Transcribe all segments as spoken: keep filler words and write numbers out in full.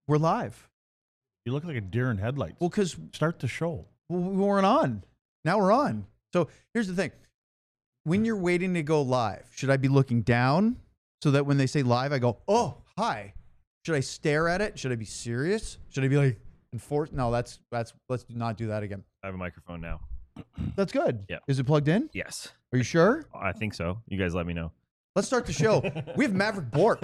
We're live. You look like a deer in headlights. Well, because Start the show. we weren't on. Now we're on. So here's the thing. When you're waiting to go live, should I be looking down so that when they say live, I go, oh, hi. Should I stare at it? Should I be serious? Should I be like enforced? No, that's, that's, let's not do that again. I have a microphone now. That's good. Yeah. Is it plugged in? Yes. Are you sure? I think so. You guys let me know. Let's start the show. We have Maverick Bork.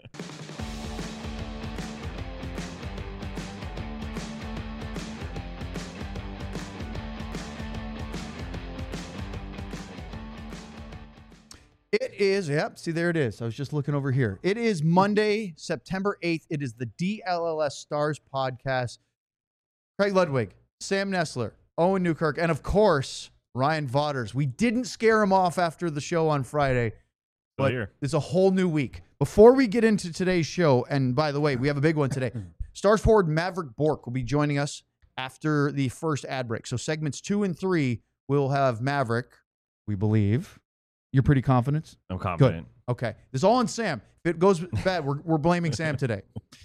It is, yep, see, there it is. I was just looking over here. It is Monday, September eighth. It is the D L L S Stars podcast. Craig Ludwig, Sam Nestler, Owen Newkirk, and of course, Ryan Vaughters. We didn't scare him off after the show on Friday, but here. it's a whole new week. Before we get into today's show, and by the way, we have a big one today. Stars forward Maverick Bork will be joining us after the first ad break. So segments two and three will have Maverick, we believe. You're pretty confident? I'm confident. Good. Okay. This is all on Sam. If it goes bad, we're, we're blaming Sam today.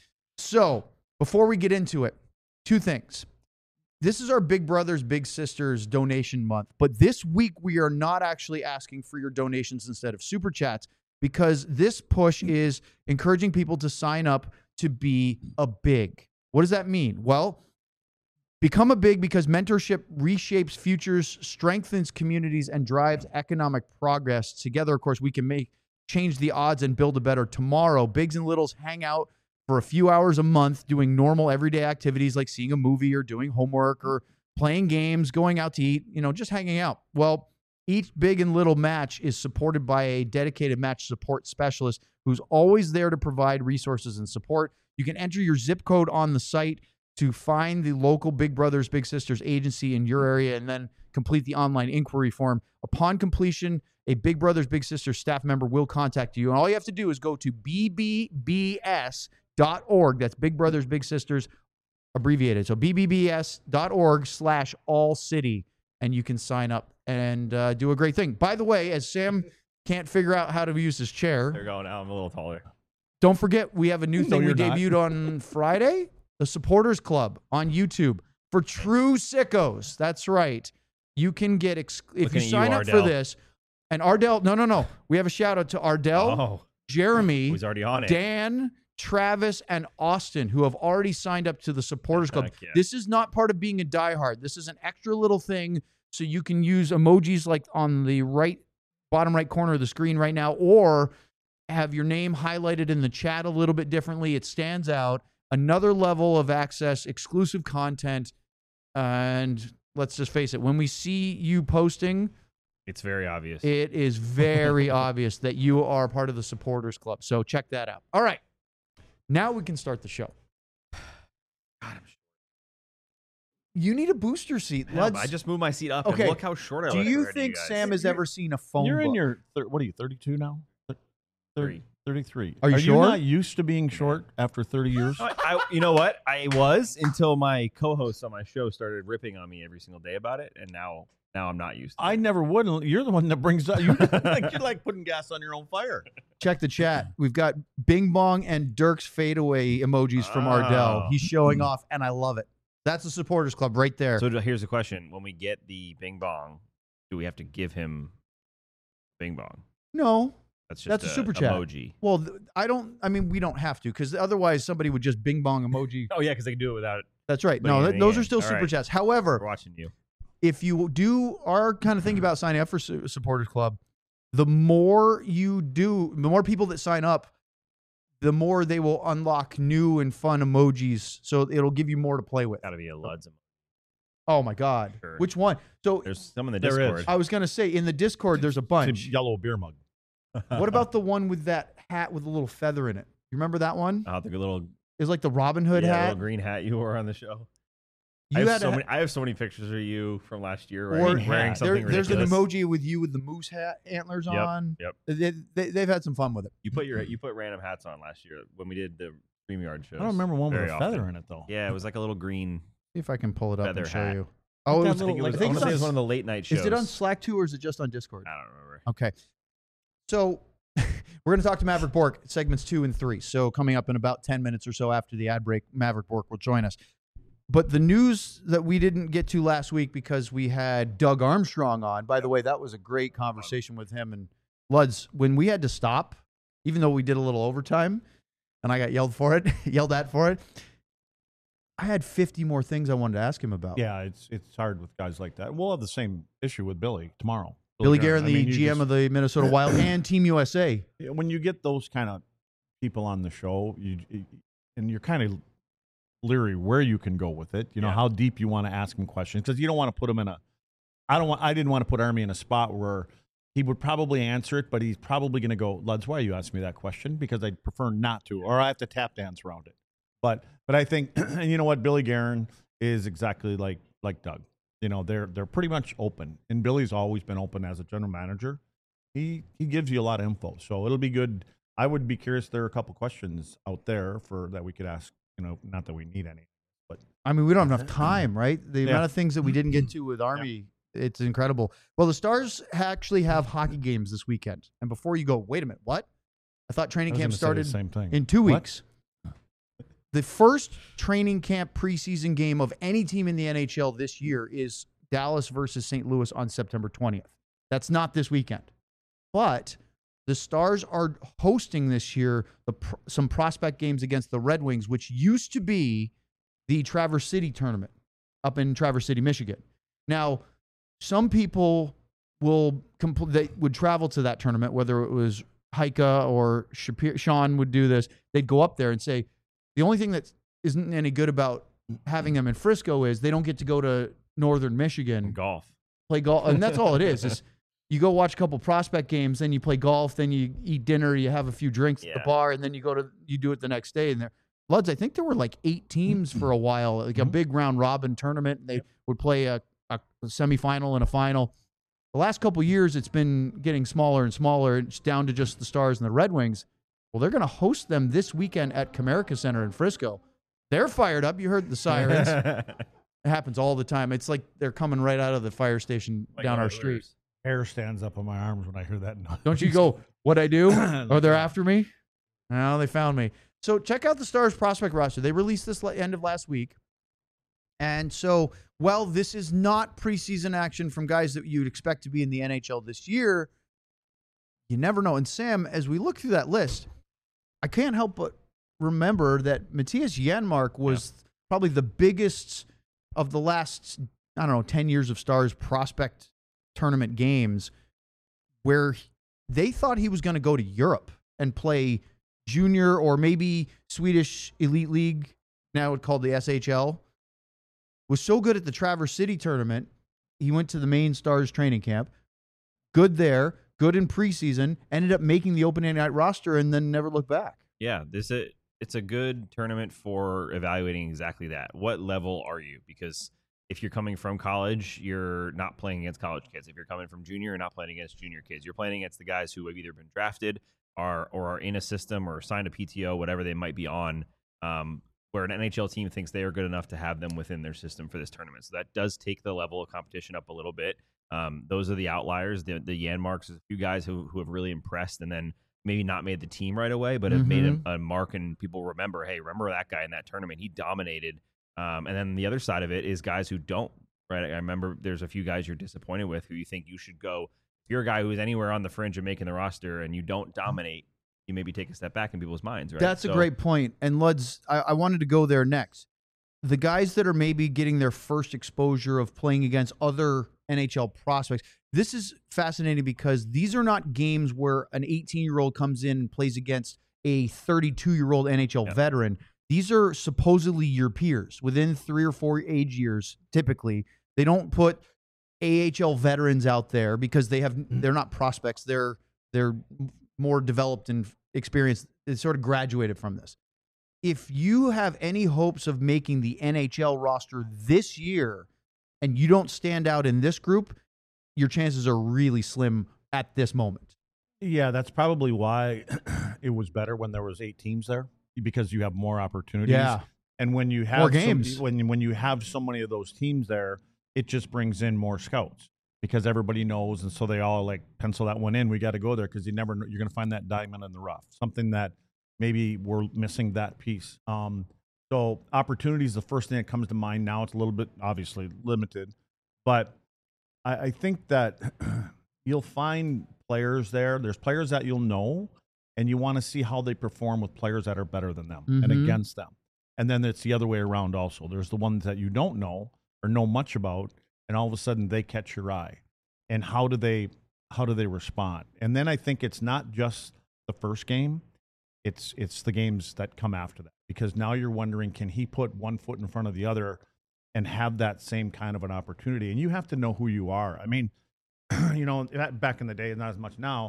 So before we get into it, two things. This is our Big Brothers, Big Sisters donation month. But this week, we are not actually asking for your donations instead of super chats because this push is encouraging people to sign up to be a big. What does that mean? Well, become a big because mentorship reshapes futures, strengthens communities, and drives economic progress. Together, of course, we can make change the odds and build a better tomorrow. Bigs and littles hang out for a few hours a month doing normal everyday activities like seeing a movie or doing homework or playing games, going out to eat, you know, just hanging out. Well, each big and little match is supported by a dedicated match support specialist who's always there to provide resources and support. You can enter your zip code on the site to find the local Big Brothers, Big Sisters agency in your area and then complete the online inquiry form. Upon completion, a Big Brothers, Big Sisters staff member will contact you. And all you have to do is go to b b b s dot org. That's Big Brothers, Big Sisters abbreviated. So b b b s dot org slash all city. And you can sign up and uh, do a great thing. By the way, as Sam can't figure out how to use his chair. There you go. Now I'm a little taller. Don't forget, we have a new No, thing we you're not. debuted on Friday. The Supporters Club on YouTube for true sickos. That's right. You can get, ex- if Looking you at sign you, up for Ardell. this, and Ardell, no, no, no. We have a shout out to Ardell, Oh, Jeremy, he's already on it. Dan, Travis, and Austin, who have already signed up to the Supporters Club. Heck yeah. This is not part of being a diehard. This is an extra little thing so you can use emojis like on the right, bottom right corner of the screen right now, or have your name highlighted in the chat a little bit differently. It stands out. Another level of access, exclusive content, and let's just face it, when we see you posting, It's very obvious. it is very obvious that you are part of the Supporters Club. So check that out. All right. Now we can start the show. God, I'm short. You need a booster seat. Yeah, Let's, but I just moved my seat up Okay. and look how short I do look you already, think guys. Sam has ever seen a phone You're in book? your, thir- what are you, thirty-two now? Thir- Three. thirty-three. Are you are sure? you not used to being short after thirty years? I, I, you know what? I was until my co-host on my show started ripping on me every single day about it, and now now I'm not used to I it. never would. You're the one that brings up. You, like, you're like putting gas on your own fire. Check the chat. We've got Bing Bong and Dirk's fadeaway emojis from Ardell. Oh. He's showing off, and I love it. That's the Supporters Club right there. So here's the question: when we get the Bing Bong, do we have to give him Bing Bong? no. That's just That's a super chat. emoji. Well, th- I don't, I mean, we don't have to because otherwise somebody would just Bing Bong emoji. Oh yeah, because they can do it without it. That's right. Putting No, th- anything those in. are still All super right. chats. We're However, watching you. if you do are kind of thinking about signing up for Su- Supporters Club, the more you do, the more people that sign up, the more they will unlock new and fun emojis. So it'll give you more to play with. Got to be a Luds. Oh my God. Sure. Which one? So There's some in the There is. Discord. I was going to say in the Discord, there's a It's bunch. a yellow beer mug. What about the one with that hat with a little feather in it? You remember that one? Oh, the little It's like the Robin Hood yeah, hat. little green hat you wore on the show. You I have had so a- many. I have so many pictures of you from last year Or- wearing, wearing hat. something There, there's an ridiculous. emoji with you with the moose hat antlers Yep, on. yep. They, they, they've had some fun with it. You put your you put random hats on last year when we did the StreamYard shows. I don't remember one with very a feather often. in it though. Yeah, it was like a little green. See if I can pull it up Feather and show hat. you. Oh, Like it that was, I think it Like, was, I I think want to say it it's was on- one of the late night shows. is it on Slack too or is it just on Discord? I don't remember. Okay. So We're going to talk to Maverick Bork, segments two and three. So coming up in about ten minutes or so after the ad break, Maverick Bork will join us. But the news that we didn't get to last week because we had Doug Armstrong on. By the way, that was a great conversation with him. And Luds, when we had to stop, even though we did a little overtime, and I got yelled for it, yelled at for it, I had fifty more things I wanted to ask him about. Yeah, it's it's hard with guys like that. We'll have the same issue with Billy tomorrow. Billy Guerin, I the mean, you G M just- of the Minnesota Wild and Team U S A. when you get those kind of people on the show, you and you're kind of leery where you can go with it. You know Yeah. how deep you want to ask him questions because you don't want to put him in a. I don't want. I didn't want to put Army in a spot where he would probably answer it, but he's probably going to go, Luds, why are you asking me that question? Because I'd prefer not to, or I have to tap dance around it. But but I think, and you know what, Billy Guerin is exactly like like Doug. You know, they're they're pretty much open, and Billy's always been open as a general manager. He he gives you a lot of info, so it'll be good. I would be curious. There are a couple questions out there for that we could ask. You know, not that we need any, but I mean, we don't have enough time, right? The Yeah. amount of things that we didn't get to with Army, it's incredible. Well, the Stars actually have hockey games this weekend. And before you go, wait a minute, what? I thought I training was camp gonna say started the same thing. in two What? weeks. The first training camp preseason game of any team in the N H L this year is Dallas versus Saint Louis on September twentieth. That's not this weekend. But the Stars are hosting this year the, pr- some prospect games against the Red Wings, which used to be the Traverse City tournament up in Traverse City, Michigan. Now, some people will compl- they would travel to that tournament, whether it was Heike or Shapir- Sean would do this. They'd go up there and say, the only thing that isn't any good about having them in Frisco is they don't get to go to Northern Michigan, Golf. play golf. And that's all it is, is you go watch a couple prospect games, then you play golf, then you eat dinner, you have a few drinks at Yeah. the bar, and then you go to, you do it the next day. And there, Luds, I think there were like eight teams for a while, like a Mhm. big round robin tournament. And they would play a, a semifinal and a final. The last couple years, it's been getting smaller and smaller. It's down to just the Stars and the Red Wings. Well, they're going to host them this weekend at Comerica Center in Frisco. They're fired up. You heard the sirens. It happens all the time. It's like they're coming right out of the fire station Like down our Oilers. street. Hair stands up on my arms when I hear that noise. Don't you go, what I do? Oh, they're after me? No, they found me. So check out the Stars prospect roster. They released this la- end of last week. And so, well, this is not preseason action from guys that you'd expect to be in the N H L this year. You never know. And Sam, as we look through that list, I can't help but remember that Matthias Janmark was probably the biggest of the last, I don't know, ten years of Stars prospect tournament games where they thought he was going to go to Europe and play junior or maybe Swedish Elite League, now it's called the S H L. Was so good at the Traverse City tournament, he went to the main Stars training camp. Good there, good in preseason, ended up making the opening night roster and then never looked back. Yeah, this is it's a good tournament for evaluating exactly that. What level are you? Because if you're coming from college, you're not playing against college kids. If you're coming from junior, you're not playing against junior kids. You're playing against the guys who have either been drafted or or are in a system or signed a P T O, whatever they might be on, um, where an N H L team thinks they are good enough to have them within their system for this tournament. So that does take the level of competition up a little bit. Um, those are the outliers. The the Janmarks, a few guys who who have really impressed, and then maybe not made the team right away, but have made a, a mark, and people remember, hey, remember that guy in that tournament? He dominated. Um, and then the other side of it is guys who don't. Right, I remember there's a few guys you're disappointed with who you think you should go. If you're a guy who is anywhere on the fringe of making the roster and you don't dominate, you maybe take a step back in people's minds. Right, That's a So- great point. And Luds, I, I wanted to go there next. The guys that are maybe getting their first exposure of playing against other N H L prospects. This is fascinating because these are not games where an eighteen-year-old comes in and plays against a thirty-two-year-old N H L Yep. veteran. These are supposedly your peers within three or four age years, typically. They don't put A H L veterans out there because they have they're not prospects. They're they're more developed and experienced. They sort of graduated from this. If you have any hopes of making the N H L roster this year and you don't stand out in this group, your chances are really slim at this moment. Yeah, that's probably why it was better when there was eight teams there because you have more opportunities. And when you have More so- games. when when you have so many of those teams there, it just brings in more scouts because everybody knows, and so they all like pencil that one in. We got to go there because you never know, you're going to find that diamond in the rough, something that maybe we're missing that piece. Um, so opportunity is the first thing that comes to mind. Now it's a little bit obviously limited, but I, I think that you'll find players there. There's players that you'll know, and you want to see how they perform with players that are better than them Mhm. and against them. And then it's the other way around also. There's the ones that you don't know or know much about, and all of a sudden they catch your eye. And how do they how do they respond? And then I think it's not just the first game, it's it's the games that come after that. Because now you're wondering, can he put one foot in front of the other and have that same kind of an opportunity? And you have to know who you are. I mean, you know, back in the day, not as much now,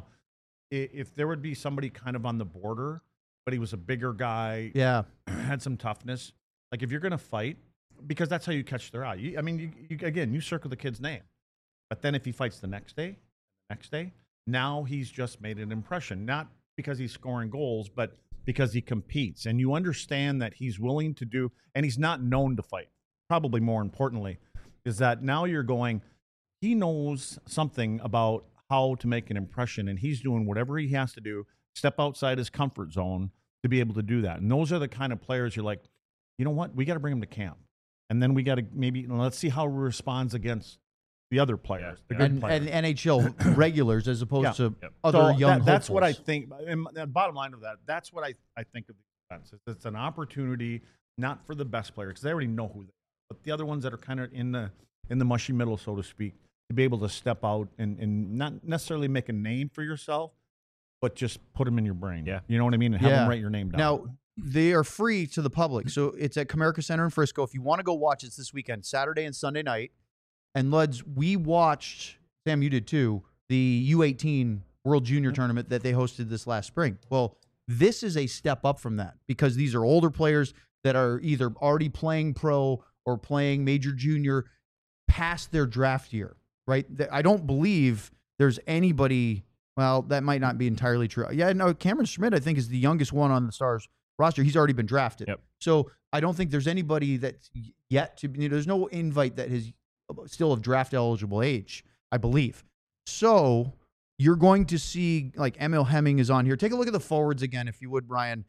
if there would be somebody kind of on the border, but he was a bigger guy, Yeah. had some toughness. Like if you're going to fight, because that's how you catch their eye. You, I mean, you, you, again, you circle the kid's name, but then if he fights the next day, next day, now he's just made an impression, not because he's scoring goals, but because he competes. And you understand that he's willing to do, and he's not known to fight. Probably more importantly, is that now you're going, he knows something about how to make an impression, and he's doing whatever he has to do, step outside his comfort zone to be able to do that. And those are the kind of players you're like, you know what, we got to bring him to camp. And then we got to maybe, you know, let's see how he responds against the other players, the good And, players. and N H L regulars as opposed Yeah. to Yep. other So young that, that's what I hopefuls. think. And the bottom line of that, that's what I, I think of the defense. It's, it's an opportunity, not for the best players, because they already know who they are, but the other ones that are kind of in the in the mushy middle, so to speak, to be able to step out and, and not necessarily make a name for yourself, but just put them in your brain. Yeah. You know what I mean? And have Yeah. them write your name down. Now, they are free to the public. So it's at Comerica Center in Frisco. If you want to go watch, it's this weekend, Saturday and Sunday night. And Luds, we watched, Sam, you did too, the U eighteen World Junior Tournament that they hosted this last spring. Well, this is a step up from that because these are older players that are either already playing pro or playing major junior past their draft year, right? Th- I don't believe there's anybody, well, that might not be entirely true. Yeah, no, Cameron Schmidt, I think, is the youngest one on the Stars roster. He's already been drafted. Yep. So I don't think there's anybody that's yet to be, you know, there's no invite that is still of draft eligible age, I believe. So you're going to see, like, Emil Hemming is on here. Take a look at the forwards again, if you would, Brian.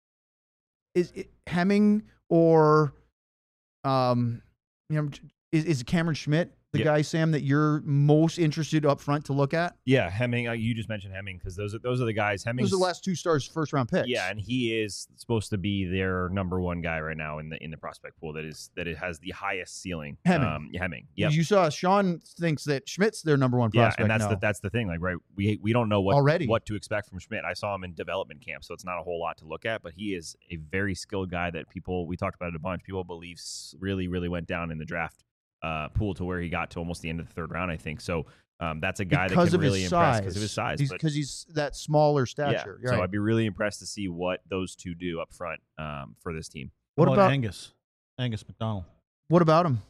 Is it Hemming or, um, you know, is, is Cameron Schmidt the Yeah. guy, Sam, that you're most interested up front to look at? Yeah, Hemming. Uh, you just mentioned Hemming because those are those are the guys. Hemming. Those are the last two Stars first round picks. Yeah, and he is supposed to be their number one guy right now in the in the prospect pool. That is that it has the highest ceiling. Hemming. Um, Hemming. Yeah. You saw Sean thinks that Schmidt's their number one Yeah, prospect. and that's now. the that's the thing. Like, right, we we don't know what Already. what to expect from Schmidt. I saw him in development camp, so it's not a whole lot to look at. But he is a very skilled guy that people we talked about it a bunch. People believe s- really really went down in the draft uh, pool to where he got to almost the end of the third round, I think. So um, that's a guy because that of can really his impress size. because of his size. but- Because he's, he's that smaller yeah, stature. You're so right. I'd be really impressed to see what those two do up front um, for this team. What How about Angus? Angus McDonald. what about him?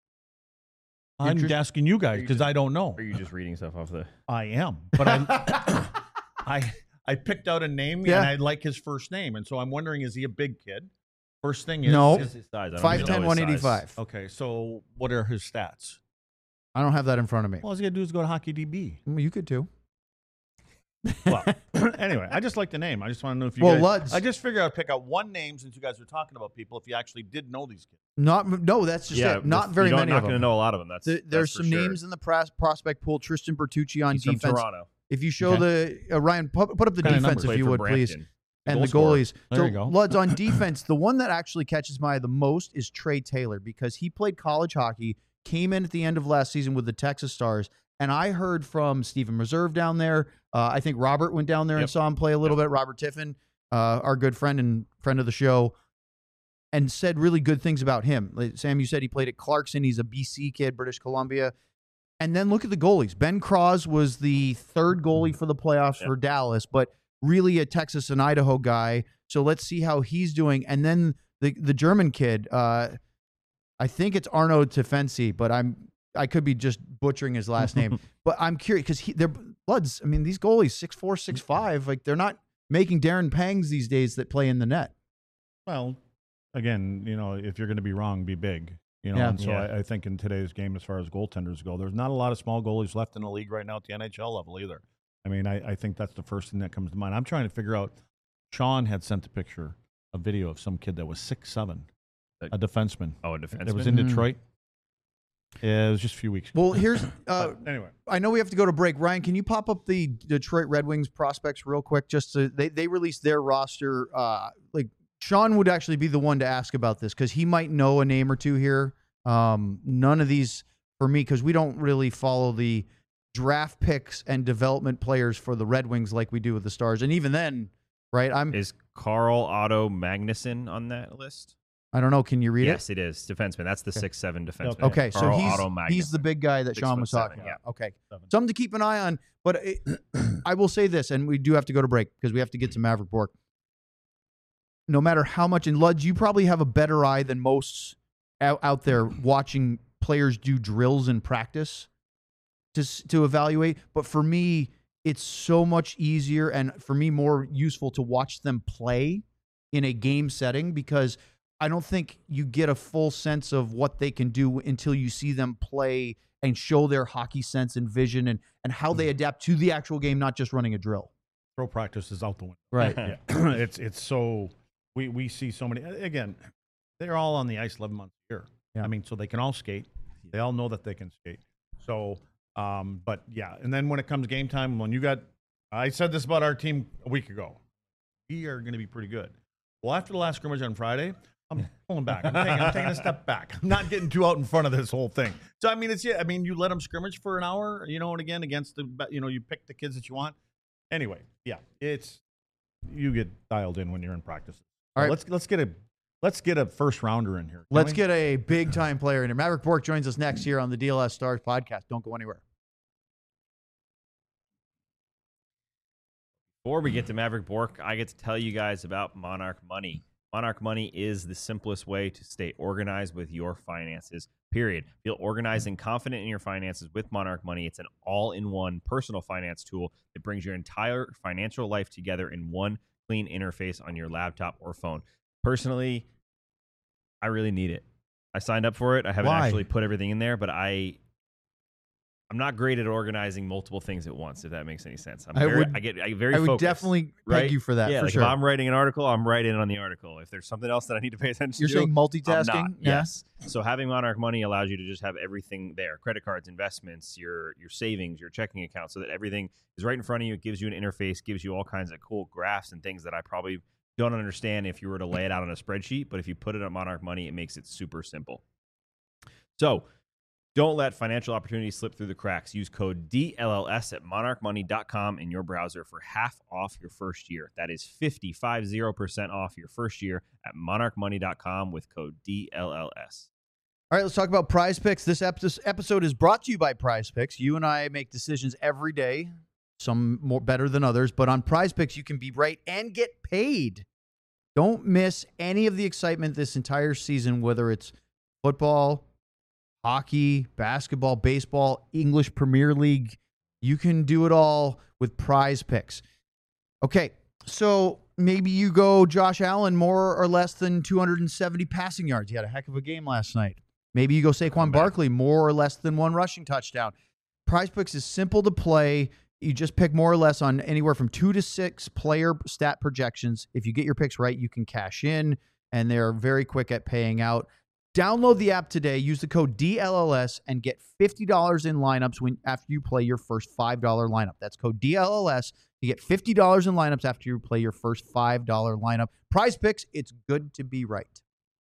I'm Interest- asking you guys Are you because just- I don't know. Are you just reading stuff off the? I am, but I, I, I picked out a name Yeah. and I like his first name, and so I'm wondering, is he a big kid? First thing is, No. What's his size? I don't five even ten, know one his size. eighty-five. okay. So what are his stats? I don't have that in front of me. Well, all he's gonna do is go to Hockey D B. Well, you could too. Well, anyway, I just like the name. I just want to know if you Well, guys. Luds- I just figured I'd pick out one name since you guys were talking about people. If you actually did know these kids, Not no, that's just Yeah, it. Not the- very you don't- many Not of going to them. know a lot of them. That's Th- There's that's for some sure. names in the pros- prospect pool. Tristan Bertucci on He's from defense. Toronto. If you show the uh, Ryan, put, put up the What kind of defense numbers? if Played you for would, please, Brampton. and Goal the scorer. goalies. There so you go. Luds on defense. The one that actually catches my eye the most is Trey Taylor because he played college hockey, came in at the end of last season with the Texas Stars, and I heard from Stephen Reserve down there. Uh, I think Robert went down there and Yep. saw him play a little bit. Robert Tiffin, uh, our good friend and friend of the show, and said really good things about him. Like, Sam, you said he played at Clarkson. He's a B C kid, British Columbia. And then look at the goalies. Ben Cross was the third goalie for the playoffs Yep. for Dallas, but really a Texas and Idaho guy. So let's see how he's doing. And then the the German kid, uh, I think it's Arno Tefensi, but I'm I could be just butchering his last name. But I'm curious because he they're Bloods. I mean, these goalies six four, six five, like they're not making Darren Pangs these days that play in the net. well, again, you know, if you're going to be wrong, be big. You know, Yeah. and so Yeah. I, I think in today's game, as far as goaltenders go, there's not a lot of small goalies left in the league right now at the N H L level either. I mean, I, I think that's the first thing that comes to mind. I'm trying to figure out. Sean had sent a picture, a video of some kid that was six seven, A- a defenseman. Oh, a defenseman. That was in Mm. Detroit. Yeah, it was just a few weeks ago. Well, here's uh, But anyway. I know we have to go to break. Ryan, can you pop up the Detroit Red Wings prospects real quick? Just to, they they released their roster. Uh, like Sean would actually be the one to ask about this because he might know a name or two here. Um, none of these for me because we don't really follow the draft picks and development players for the Red Wings like we do with the Stars. And even then, right? I'm Is Carl Otto Magnuson on that list? I don't know. Can you read Yes, it is defenseman. That's the Okay. six seven defenseman. it? Okay, so Carl he's Otto he's the Magnuson. big guy that Six Sean foot was seven, talking yeah. about. Okay. Seven. Something to keep an eye on, but it, I will say this, and we do have to go to break because we have to get to Maverick Bork. No matter how much, and Luds, you probably have a better eye than most out, out there watching players do drills in practice to s- to evaluate. But for me, it's so much easier and for me more useful to watch them play in a game setting because I don't think you get a full sense of what they can do until you see them play and show their hockey sense and vision and, and how they adapt to the actual game, not just running a drill. Pro practice is out the window. Right. Yeah. it's it's so we we see so many again. They're all on the ice eleven months a year. Yeah. I mean, so they can all skate. They all know that they can skate. So, um, but yeah, and then when it comes game time, when you got, I said this about our team a week ago. We are going to be pretty good. Well, after the last scrimmage on Friday, I'm pulling back. I'm taking, I'm taking a step back. I'm not getting too out in front of this whole thing. So I mean, it's yeah. I mean, you let them scrimmage for an hour, you know, and again against the, you know, you pick the kids that you want. Anyway, yeah, it's you get dialed in when you're in practice. All right. let's let's get a let's get a first rounder in here. can Let's we? get a big time player in here. Maverick Bork joins us next here on the D L S Stars podcast. Don't go anywhere. Before we get to Maverick Bork, I get to tell you guys about Monarch Money. Monarch Money is the simplest way to stay organized with your finances, period. Feel organized and confident in your finances with Monarch Money. It's an all-in-one personal finance tool that brings your entire financial life together in one clean interface on your laptop or phone. Personally, I really need it. I signed up for it. I haven't Why? actually put everything in there, but I... I'm not great at organizing multiple things at once, if that makes any sense. I'm I very, would- I get I very I would focused, definitely peg right? you for that. Yeah, for like sure. if I'm writing an article, I'm writing on the article. If there's something else that I need to pay attention You're to, saying I'm multitasking? not. Yeah. Yes. So having Monarch Money allows you to just have everything there: credit cards, investments, your your savings, your checking account, so that everything is right in front of you. It gives you an interface, gives you all kinds of cool graphs and things that I probably don't understand if you were to lay it out on a spreadsheet. But if you put it on Monarch Money, it makes it super simple. So don't let financial opportunities slip through the cracks. Use code D L L S at monarch money dot com in your browser for half off your first year. That is fifty percent off your first year at monarch money dot com with code D L L S. All right, let's talk about Prize Picks. This ep- this episode is brought to you by Prize Picks. You and I make decisions every day, some more better than others, but on Prize Picks, you can be right and get paid. Don't miss any of the excitement this entire season, whether it's football, hockey, basketball, baseball, English Premier League. You can do it all with Prize Picks. Okay, so maybe you go Josh Allen more or less than two hundred seventy passing yards. He had a heck of a game last night. Maybe you go Saquon Barkley more or less than one rushing touchdown. Prize Picks is simple to play. You just pick more or less on anywhere from two to six player stat projections. If you get your picks right, you can cash in, and they're very quick at paying out. Download the app today. Use the code D L L S and get fifty dollars in lineups when after you play your first five dollar lineup. That's code D L L S. You get fifty dollars in lineups after you play your first five dollar lineup. Prize Picks, it's good to be right.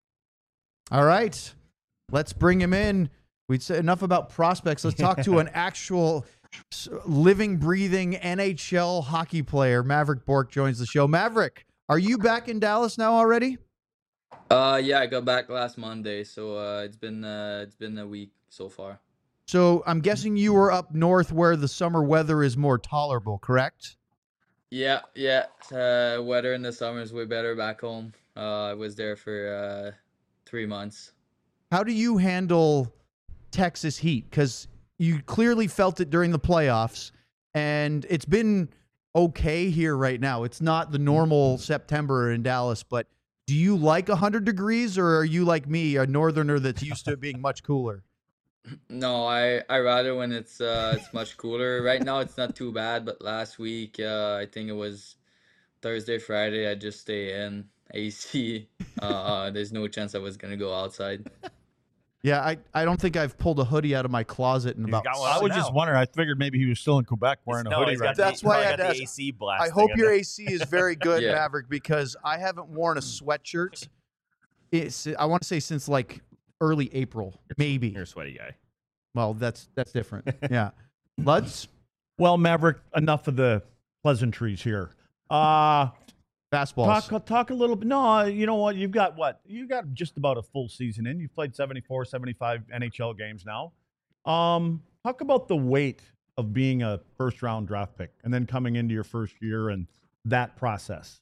All right, let's bring him in. We'd say enough about prospects. Let's talk to an actual living, breathing N H L hockey player. Maverick Bork joins the show. Maverick, are you back in Dallas now already? Uh, yeah, I got back last Monday, so uh, it's been uh, it's been a week so far. So I'm guessing you were up north where the summer weather is more tolerable, correct? Yeah, yeah. Uh, weather in the summer is way better back home. Uh, I was there for uh, three months. How do you handle Texas heat? Because you clearly felt it during the playoffs, and it's been okay here right now. It's not the normal September in Dallas, but Do you like one hundred degrees, or are you like me, a northerner that's used to it being much cooler? No, I I rather when it's uh it's much cooler. Right now it's not too bad, but last week uh I think it was Thursday, Friday, I just stay in A C. Uh, there's no chance I was gonna go outside. Yeah, I, I don't think I've pulled a hoodie out of my closet in He's about. got one I on was now. just wondering. I figured maybe he was still in Quebec wearing a no, hoodie he's right got now. That's the, why he's I got the had to A C I blast. hope thing your in A C is very good, Yeah. Maverick, because I haven't worn a sweatshirt. It's I want to say since like early April, maybe. there. You're a sweaty guy. Well, that's that's different. Yeah, Luds, Well, Maverick, enough of the pleasantries here. Uh fastballs. talk talk a little bit. No, you know what? You've got what? You got just about a full season in. You've played seventy-four, seventy-five N H L games now. Um, talk about the weight of being a first round draft pick and then coming into your first year and that process.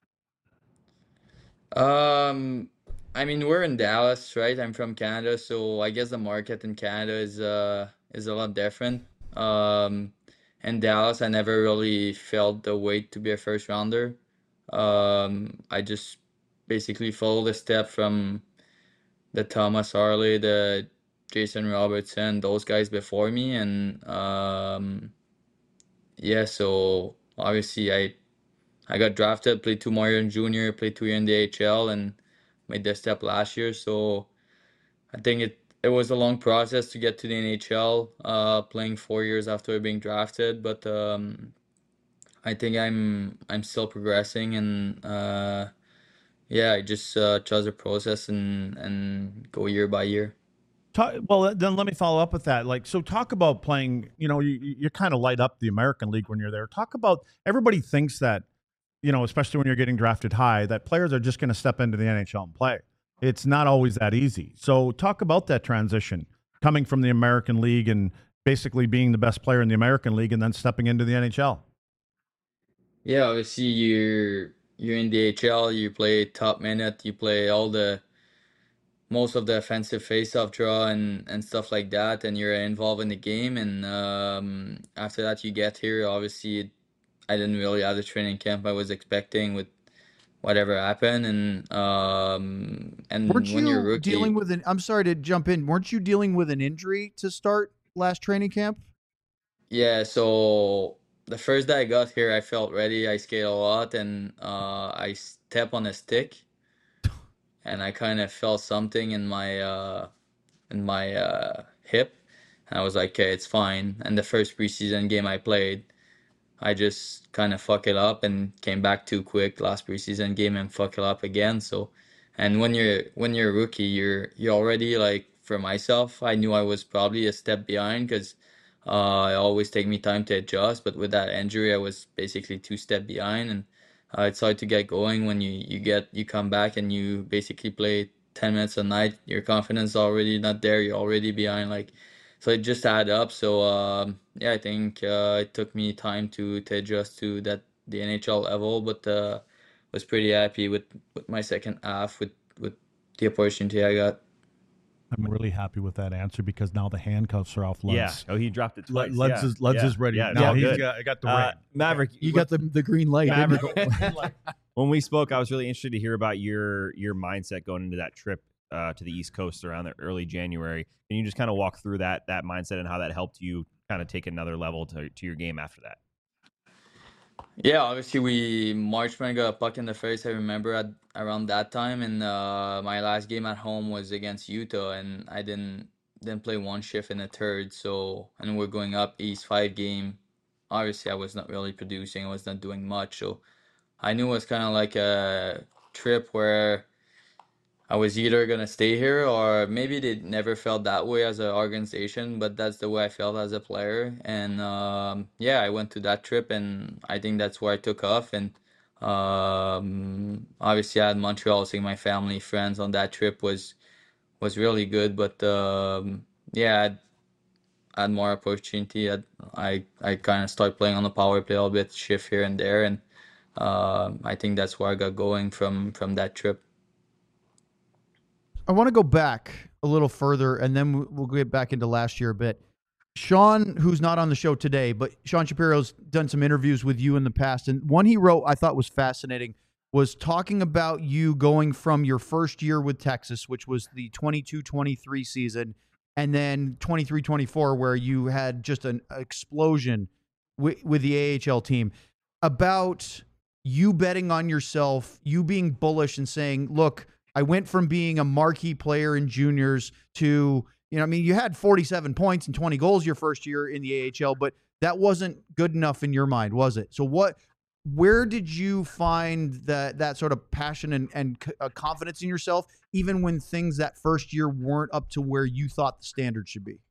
Um, I mean, we're in Dallas, right? I'm from Canada, so I guess the market in Canada is uh is a lot different. Um, in Dallas, I never really felt the weight to be a first rounder. Um, I just basically followed the step from the Thomas Harley, the Jason Robertson, those guys before me, and um, yeah, so obviously I I got drafted, played two more years in junior, played two years in the A H L, and made the step last year. So I think it it was a long process to get to the N H L, uh, playing four years after being drafted. But um, I think I'm I'm still progressing, and uh, yeah, I just uh, trust the process and and go year by year. Talk, well, then let me follow up with that. Like, so talk about playing. You know, you you kind of light up the American League when you're there. Talk about everybody thinks that, you know, especially when you're getting drafted high, that players are just going to step into the N H L and play. It's not always that easy. So talk about that transition coming from the American League and basically being the best player in the American League and then stepping into the N H L. Yeah, obviously you're you're in the A H L, you play top minute, you play all the most of the offensive face-off draw and and stuff like that, and you're involved in the game. And um, after that, you get here. Obviously, I didn't really have the training camp I was expecting with whatever happened, and um, and Weren't when you're a you rookie, dealing with an? I'm sorry to jump in. Weren't you dealing with an injury to start last training camp? yeah. So the first day I got here, I felt ready. I skated a lot, and uh, I stepped on a stick, and I kind of felt something in my uh, in my uh, hip. And I was like, okay, it's fine. And the first preseason game I played, I just kind of fuck it up and came back too quick last preseason game and fuck it up again. So, and when you're when you're a rookie, you're you're already like, for myself, I knew I was probably a step behind because uh, it always take me time to adjust. But with that injury, I was basically two step behind, and uh, it's hard to get going when you you get you come back and you basically play ten minutes a night. Your confidence is already not there. You're already behind, like. So it just add up. So um, yeah, I think uh, it took me time to to adjust to that the N H L level, but uh, was pretty happy with, with my second half with with the opportunity I got. I'm really happy with that answer because now the handcuffs are off Luds. Yeah. Oh, he dropped it twice. Luds, yeah. is, Luds yeah. is ready. Yeah, now yeah, he's good. got, I got the Uh, ring. Maverick, You got the the green light. didn't Maverick, you? when we spoke, I was really interested to hear about your your mindset going into that trip uh, to the East Coast around the early January. Can you just kind of walk through that that mindset and how that helped you kind of take another level to to your game after that? Yeah, obviously we March when I got a puck in the face. I remember at around that time, and uh, my last game at home was against Utah, and I didn't didn't play one shift in the third. So, and we're going up East five game. Obviously, I was not really producing. I was not doing much. So, I knew it was kind of like a trip where I was either gonna stay here or maybe they never felt that way as an organization, but that's the way I felt as a player. And um, yeah, I went to that trip, and I think that's where I took off. And um, obviously, I had Montreal, seeing my family, friends on that trip was was really good. But um, yeah, I had, I had more opportunity. I I, I kind of started playing on the power play a little bit, shift here and there, and um I think that's where I got going from from that trip. I want to go back a little further, and then we- we'll get back into last year a bit. Sean, who's not on the show today, but Sean Shapiro's done some interviews with you in the past, and one he wrote I thought was fascinating. was talking about you going from your first year with Texas, which was the twenty-two twenty-three season, and then twenty-three twenty-four, where you had just an explosion with, with the A H L team, about you betting on yourself, you being bullish and saying, look, I went from being a marquee player in juniors to, you know, I mean, you had forty-seven points and twenty goals your first year in the A H L, but that wasn't good enough in your mind, was it? So what, where did you find that, that sort of passion and, and uh, confidence in yourself, even when things that first year weren't up to where you thought the standard should be?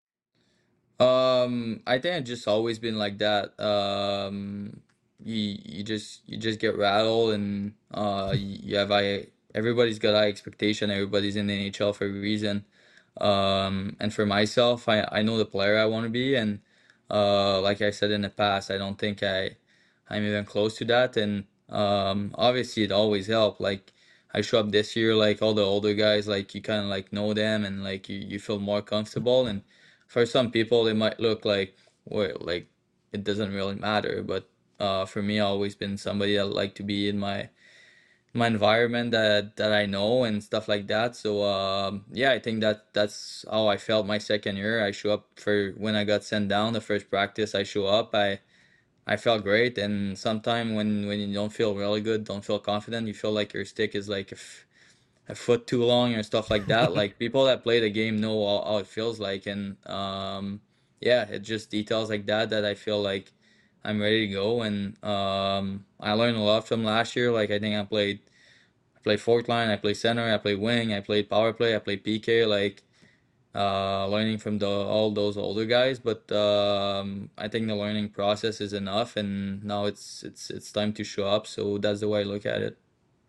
Um, I think I've just always been like that. Um, you you just you just get rattled, and uh, you you have I everybody's got high expectation. Everybody's in the N H L for a reason. Um, and for myself, I I know the player I want to be, and uh, like I said in the past, I don't think I I'm even close to that. And um, obviously, it always helped. Like I show up this year, like all the older guys, like you kind of like know them, and like you you feel more comfortable. And for some people, it might look like, well, like it doesn't really matter. But uh, for me, I've always been somebody that like to be in my my environment that that I know and stuff like that. So um, yeah, I think that that's how I felt my second year. I show up for when I got sent down the first practice. I show up. I I felt great. And sometimes when when you don't feel really good, don't feel confident, you feel like your stick is like a, f- a foot too long or stuff like that. Like people that play the game know how, how it feels like, and um, yeah, it just details like that that I feel like I'm ready to go. And um, I learned a lot from last year. Like I think I played I played fourth line, I played center, I played wing, I played power play, I played P K. Like uh, learning from the all those older guys. But um, I think the learning process is enough, and now it's it's it's time to show up. So that's the way I look at it.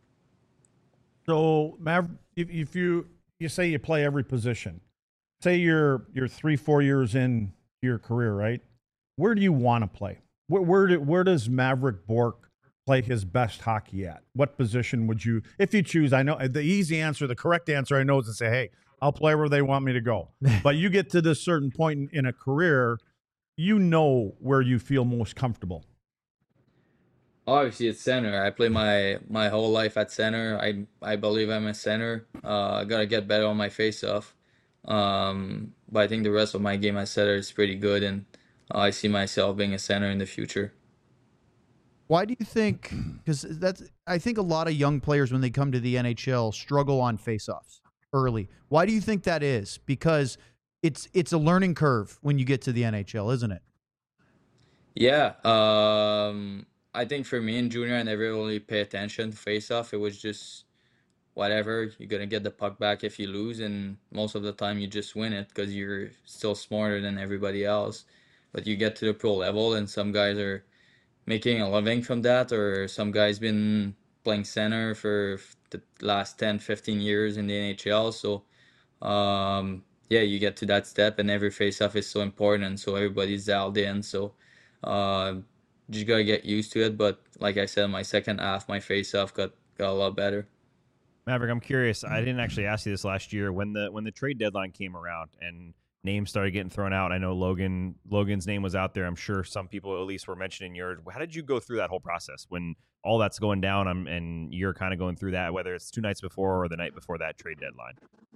So, Mav, if, if you you say you play every position, say you're you're three four years in your career, right? Where do you want to play? Where where, do, where does Mavrik Bourque play his best hockey at? What position would you, if you choose? I know the easy answer, the correct answer, I know is to say, hey, I'll play where they want me to go. But you get to this certain point in, in a career, you know where you feel most comfortable. Obviously, it's center. I play my my whole life at center. I I believe I'm a center. Uh, I gotta get better on my face-off. Um, but I think the rest of my game at center is pretty good, and uh, I see myself being a center in the future. Why do you think? Because that's, I think a lot of young players when they come to the N H L struggle on faceoffs early. Why do you think that is? Because it's it's a learning curve when you get to the N H L, isn't it? Yeah. Um, I think for me in junior, I never really pay attention to face-off. It was just whatever. You're gonna get the puck back if you lose, and most of the time you just win it because you're still smarter than everybody else. But you get to the pro level, and some guys are making a living from that, or some guys been playing center for the last ten, fifteen years in the N H L. So um, yeah, you get to that step, and every face-off is so important, so everybody's dialed in. So uh, just gotta get used to it. But like I said, my second half, my face-off got got a lot better. Maverick, I'm curious. I didn't actually ask you this last year when the when the trade deadline came around and names started getting thrown out. I know Logan Logan's name was out there. I'm sure some people at least were mentioning yours. How did you go through that whole process when all that's going down um, and you're kind of going through that, whether it's two nights before or the night before that trade deadline?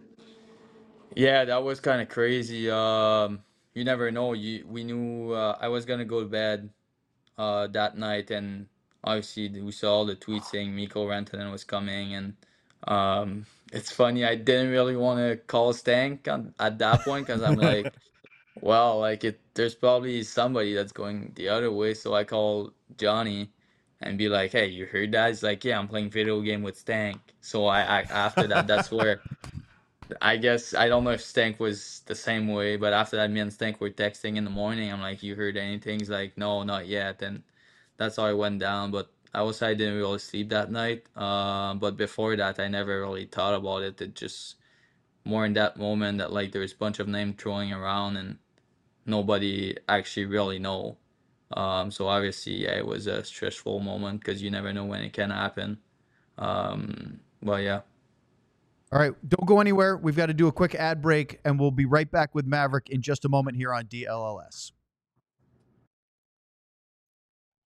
Yeah, that was kind of crazy. Um, you never know. You we knew uh, I was gonna go to bed uh, that night, and obviously we saw all the tweets saying Mikko Rantanen was coming, and um, it's funny. I didn't really want to call Stank on, at that point because I'm like, well, like it. There's probably somebody that's going the other way, so I call Johnny and be like, "Hey, you heard that?" He's like, "Yeah, I'm playing video game with Stank." So I, I after that, that's where. I guess I don't know if Stank was the same way, but after that, me and Stank were texting in the morning. I'm like, "You heard anything?" He's like, "No, not yet." And that's how I went down. But I was I didn't really sleep that night. Uh, but before that, I never really thought about it. It just more in that moment that like there's a bunch of name throwing around and nobody actually really know. Um, so obviously, yeah, it was a stressful moment because you never know when it can happen. Um, but yeah. All right, don't go anywhere. We've got to do a quick ad break, and we'll be right back with Maverick in just a moment here on D L L S.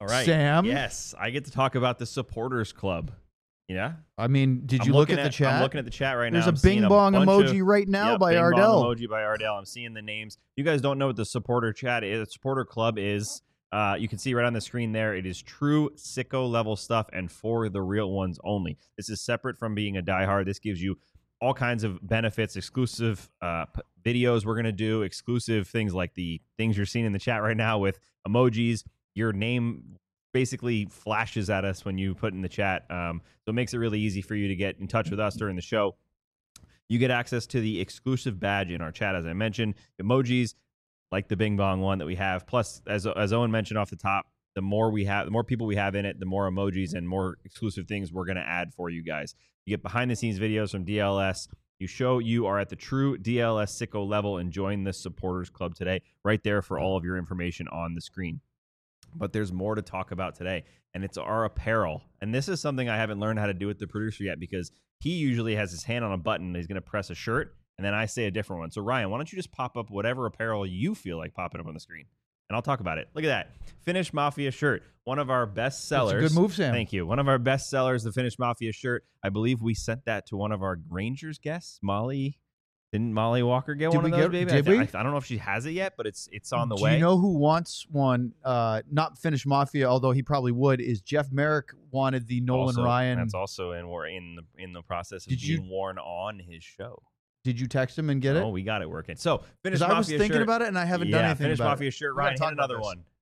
All right. Sam? Yes, I get to talk about the supporters club. Yeah. I mean, did I'm you look looking at the chat? I'm looking at the chat right There's now. a I'm seeing bing bong bunch emoji of- right now Yep, by bing bong Ardell. emoji by Ardell. I'm seeing the names. You guys don't know what the supporter chat is. The supporter club is. Uh, you can see right on the screen there. It is true sicko level stuff and for the real ones only. This is separate from being a diehard. This gives you all kinds of benefits, exclusive uh, p- videos we're going to do, exclusive things like the things you're seeing in the chat right now with emojis. Your name basically flashes at us when you put in the chat. Um, so it makes it really easy for you to get in touch with us during the show. You get access to the exclusive badge in our chat, as I mentioned, emojis like the Bing Bong one that we have. Plus, as as Owen mentioned off the top, the more we have, the more people we have in it, the more emojis and more exclusive things we're going to add for you guys. You get behind the scenes videos from D L S. You show you are at the true D L S sicko level and join the supporters club today. Right there for all of your information on the screen. But there's more to talk about today, and it's our apparel. And this is something I haven't learned how to do with the producer yet, because he usually has his hand on a button and he's going to press a shirt, and then I say a different one. So, Ryan, why don't you just pop up whatever apparel you feel like popping up on the screen, and I'll talk about it. Look at that. Finnish Mafia shirt, one of our best sellers. That's a good move, Sam. Thank you. One of our best sellers, the Finnish Mafia shirt. I believe we sent that to one of our Rangers guests, Molly. Didn't Molly Walker get Did one we of those, get- baby? did I, we? I, I don't know if she has it yet, but it's it's on the Do way. you know who wants one? Uh, not Finnish Mafia, although he probably would. Is Jeff Merrick wanted the Nolan Also- Ryan? That's also in we're in the in the process of Did you- being worn on his show. Did you text him and get Oh, it? we got it working. So Finnish Because Mafia I was thinking shirt. about it and I haven't yeah, done anything Finnish about Mafia it. shirt. We gotta Ryan, talk hit about another this. one.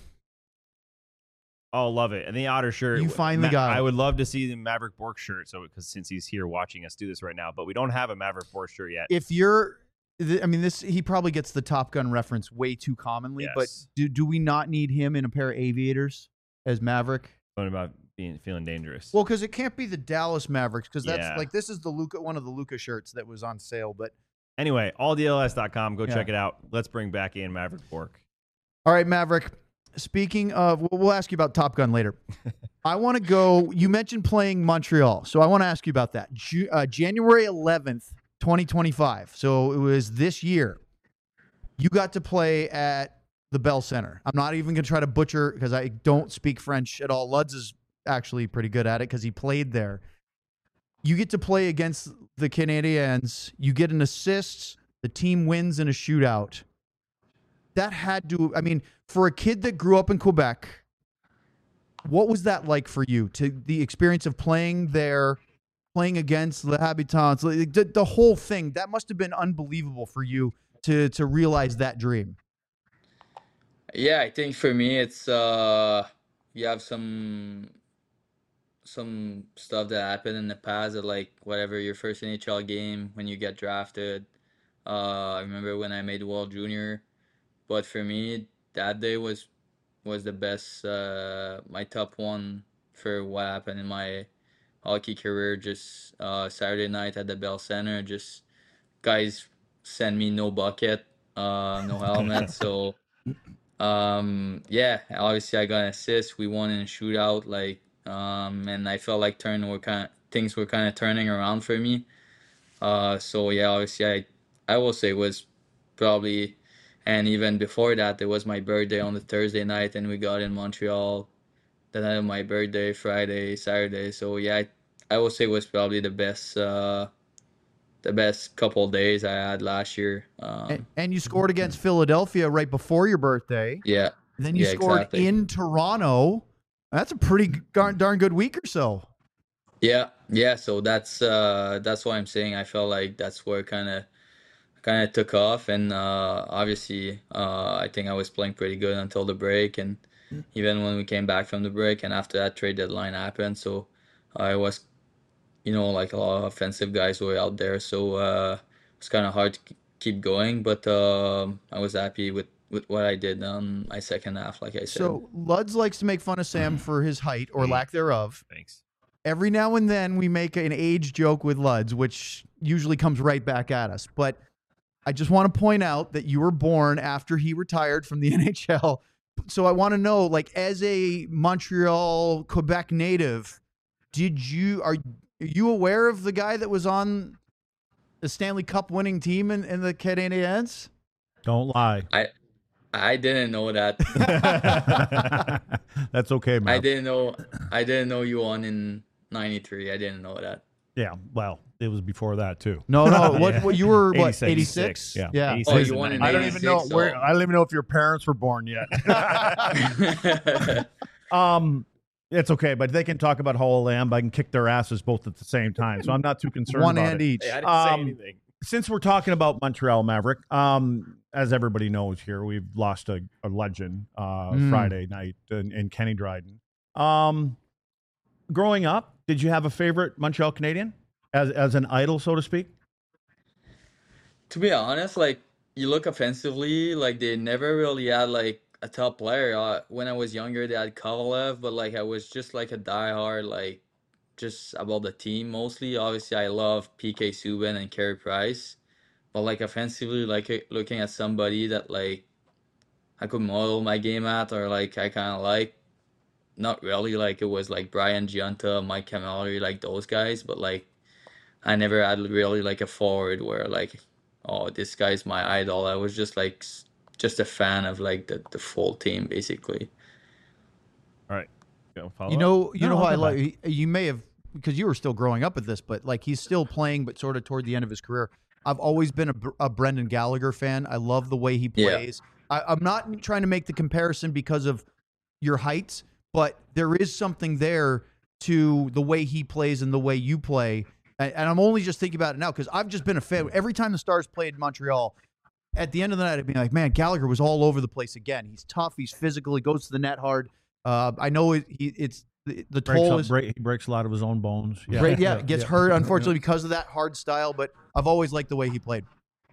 Oh, love it. And the Otter shirt. You finally got it. I would love to see the Maverick Bork shirt. So because since he's here watching us do this right now, but we don't have a Maverick Bork shirt yet. If you're, th- I mean, this he probably gets the Top Gun reference way too commonly. But Yes. do do we not need him in a pair of aviators as Maverick? What about being feeling dangerous? Well, because it can't be the Dallas Mavericks, because that's Yeah. like this is the Luca, one of the Luca shirts that was on sale. But anyway, all D L S dot com. Go Yeah. check it out. Let's bring back in Maverick Bork. all right, Maverick. Speaking of, we'll- we'll ask you about Top Gun later. I want to go. You mentioned playing Montreal, so I want to ask you about that. Ju- uh, January eleventh, twenty twenty-five. So it was this year. You got to play at the Bell Center. I'm not even going to try to butcher because I don't speak French at all. Luds is actually pretty good at it because he played there. You get to play against the Canadiens. You get an assist. The team wins in a shootout. That had to, I mean, for a kid that grew up in Quebec, what was that like for you? To the experience of playing there, playing against the Habitants, like, the, the whole thing, that must have been unbelievable for you to to realize that dream. Yeah, I think for me it's uh you have some some stuff that happened in the past that, like, whatever, your first N H L game when you get drafted. Uh I remember when I made World Junior, but for me that day was was the best, uh my top one for what happened in my hockey career. Just uh Saturday night at the Bell Center, just guys send me no bucket, uh no helmet, so um, yeah, obviously I got an assist. We won in a shootout, like, um, and I felt like turn were kind of things were kind of turning around for me. Uh, so yeah, obviously I, I will say it was probably, and even before that, it was my birthday on the Thursday night, and we got in Montreal the night of my birthday, Friday, Saturday. So yeah, I, I will say it was probably the best, uh, the best couple days I had last year. Um, And, and you scored against Philadelphia right before your birthday. yeah. And then you Yeah, scored exactly. in Toronto. That's a pretty darn, darn good week or so. Yeah, yeah. So that's uh that's what I'm saying. I felt like that's where kind of kind of took off, and uh obviously uh I think I was playing pretty good until the break, and even when we came back from the break, and after that trade deadline happened, so I was, you know, like a lot of offensive guys were out there, so uh it's kind of hard to k- keep going, but um I was happy with with what I did on my second half, like I said. So Luds likes to make fun of Sam for his height or lack thereof. Thanks. Every now and then we make an age joke with Luds, which usually comes right back at us. But I just want to point out that you were born after he retired from the N H L. So I want to know, like, as a Montreal, Quebec native, did you are, are you aware of the guy that was on the Stanley Cup winning team in, in the Canadiens? Don't lie. I I didn't know that. That's okay, man. I didn't know. I didn't know you won in ninety-three. I didn't know that. Yeah, well, it was before that too. No, no. What, Yeah. what you were? What? eighty-six. eighty-six? Yeah. Yeah. eighty-six Oh, and you won in I don't ninety-eight. even know eighty-six, where. so- I don't even know if your parents were born yet. um, it's okay, but they can talk about how old I am. But I can kick their asses both at the same time, so I'm not too concerned. One about and it. each. Hey, I didn't say Um, anything. Since we're talking about Montreal Maverick, um, as everybody knows here, we've lost a, a legend uh, Mm. Friday night in, in Kenny Dryden. Um, growing up, did you have a favorite Montreal Canadian as as an idol, so to speak? To be honest, like you look offensively, like they never really had like a top player. Uh, when I was younger, they had Kovalev, but like I was just like a diehard, like just about the team mostly. Obviously, I love P K Subban and Carey Price, but like offensively, like uh, looking at somebody that like I could model my game at, or like I kind of like. Not really, like it was like Brian Giunta, Mike Camilleri, like those guys, but like I never had really like a forward where like, oh, this guy's my idol. I was just like s- just a fan of like the, the full team basically. All right. Go follow You up. know, you No, know I'll how I come like. You may have because you were still growing up with this, but like he's still playing, but sort of toward the end of his career. I've always been a, Br- a Brendan Gallagher fan. I love the way he Yeah. plays. I, I'm not trying to make the comparison because of your heights, but there is something there to the way he plays and the way you play. And, and I'm only just thinking about it now because I've just been a fan. Every time the Stars played Montreal, at the end of the night, I'd be like, man, Gallagher was all over the place again. He's tough. He's physical. He goes to the net hard. Uh, I know it, he, it's the, the Breaks, toll up- is break, he breaks a lot of his own bones. Yeah, great. Yeah, gets hurt unfortunately because of that hard style. But I've always liked the way he played.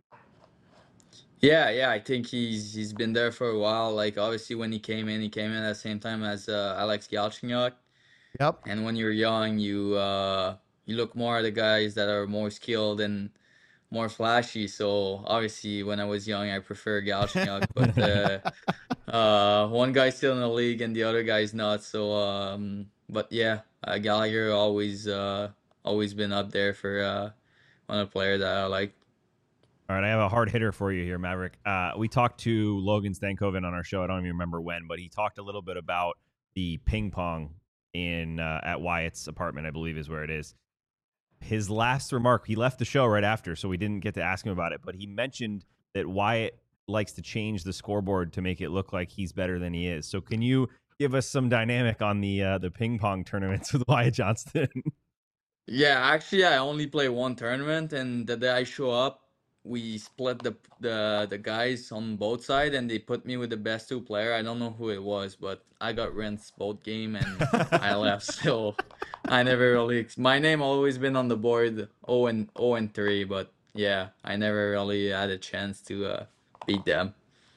Yeah, yeah, I think he's he's been there for a while. Like obviously when he came in, he came in at the same time as uh, Alex Galchenyuk. Yep. And when you're young, you uh, you look more at the guys that are more skilled and more flashy. So obviously, when I was young, I prefer Galchenyuk, but uh, uh, one guy's still in the league and the other guy's not. So, um, but yeah, uh, Gallagher always uh, always been up there for uh, one of the players that I like. All right, I have a hard hitter for you here, Maverick. Uh, we talked to Logan Stankoven on our show. I don't even remember when, but he talked a little bit about the ping pong in uh, at Wyatt's apartment, I believe is where it is. His last remark, he left the show right after, so we didn't get to ask him about it, but he mentioned that Wyatt likes to change the scoreboard to make it look like he's better than he is. So can you give us some dynamic on the uh, the ping pong tournaments with Wyatt Johnston? Yeah, actually, I only play one tournament, and the day I show up, we split the the the guys on both sides, and they put me with the best two player. I don't know who it was, but I got rinsed both game, and I left. So I never really. My name always been on the board, oh and oh and three, but yeah, I never really had a chance to uh, beat them.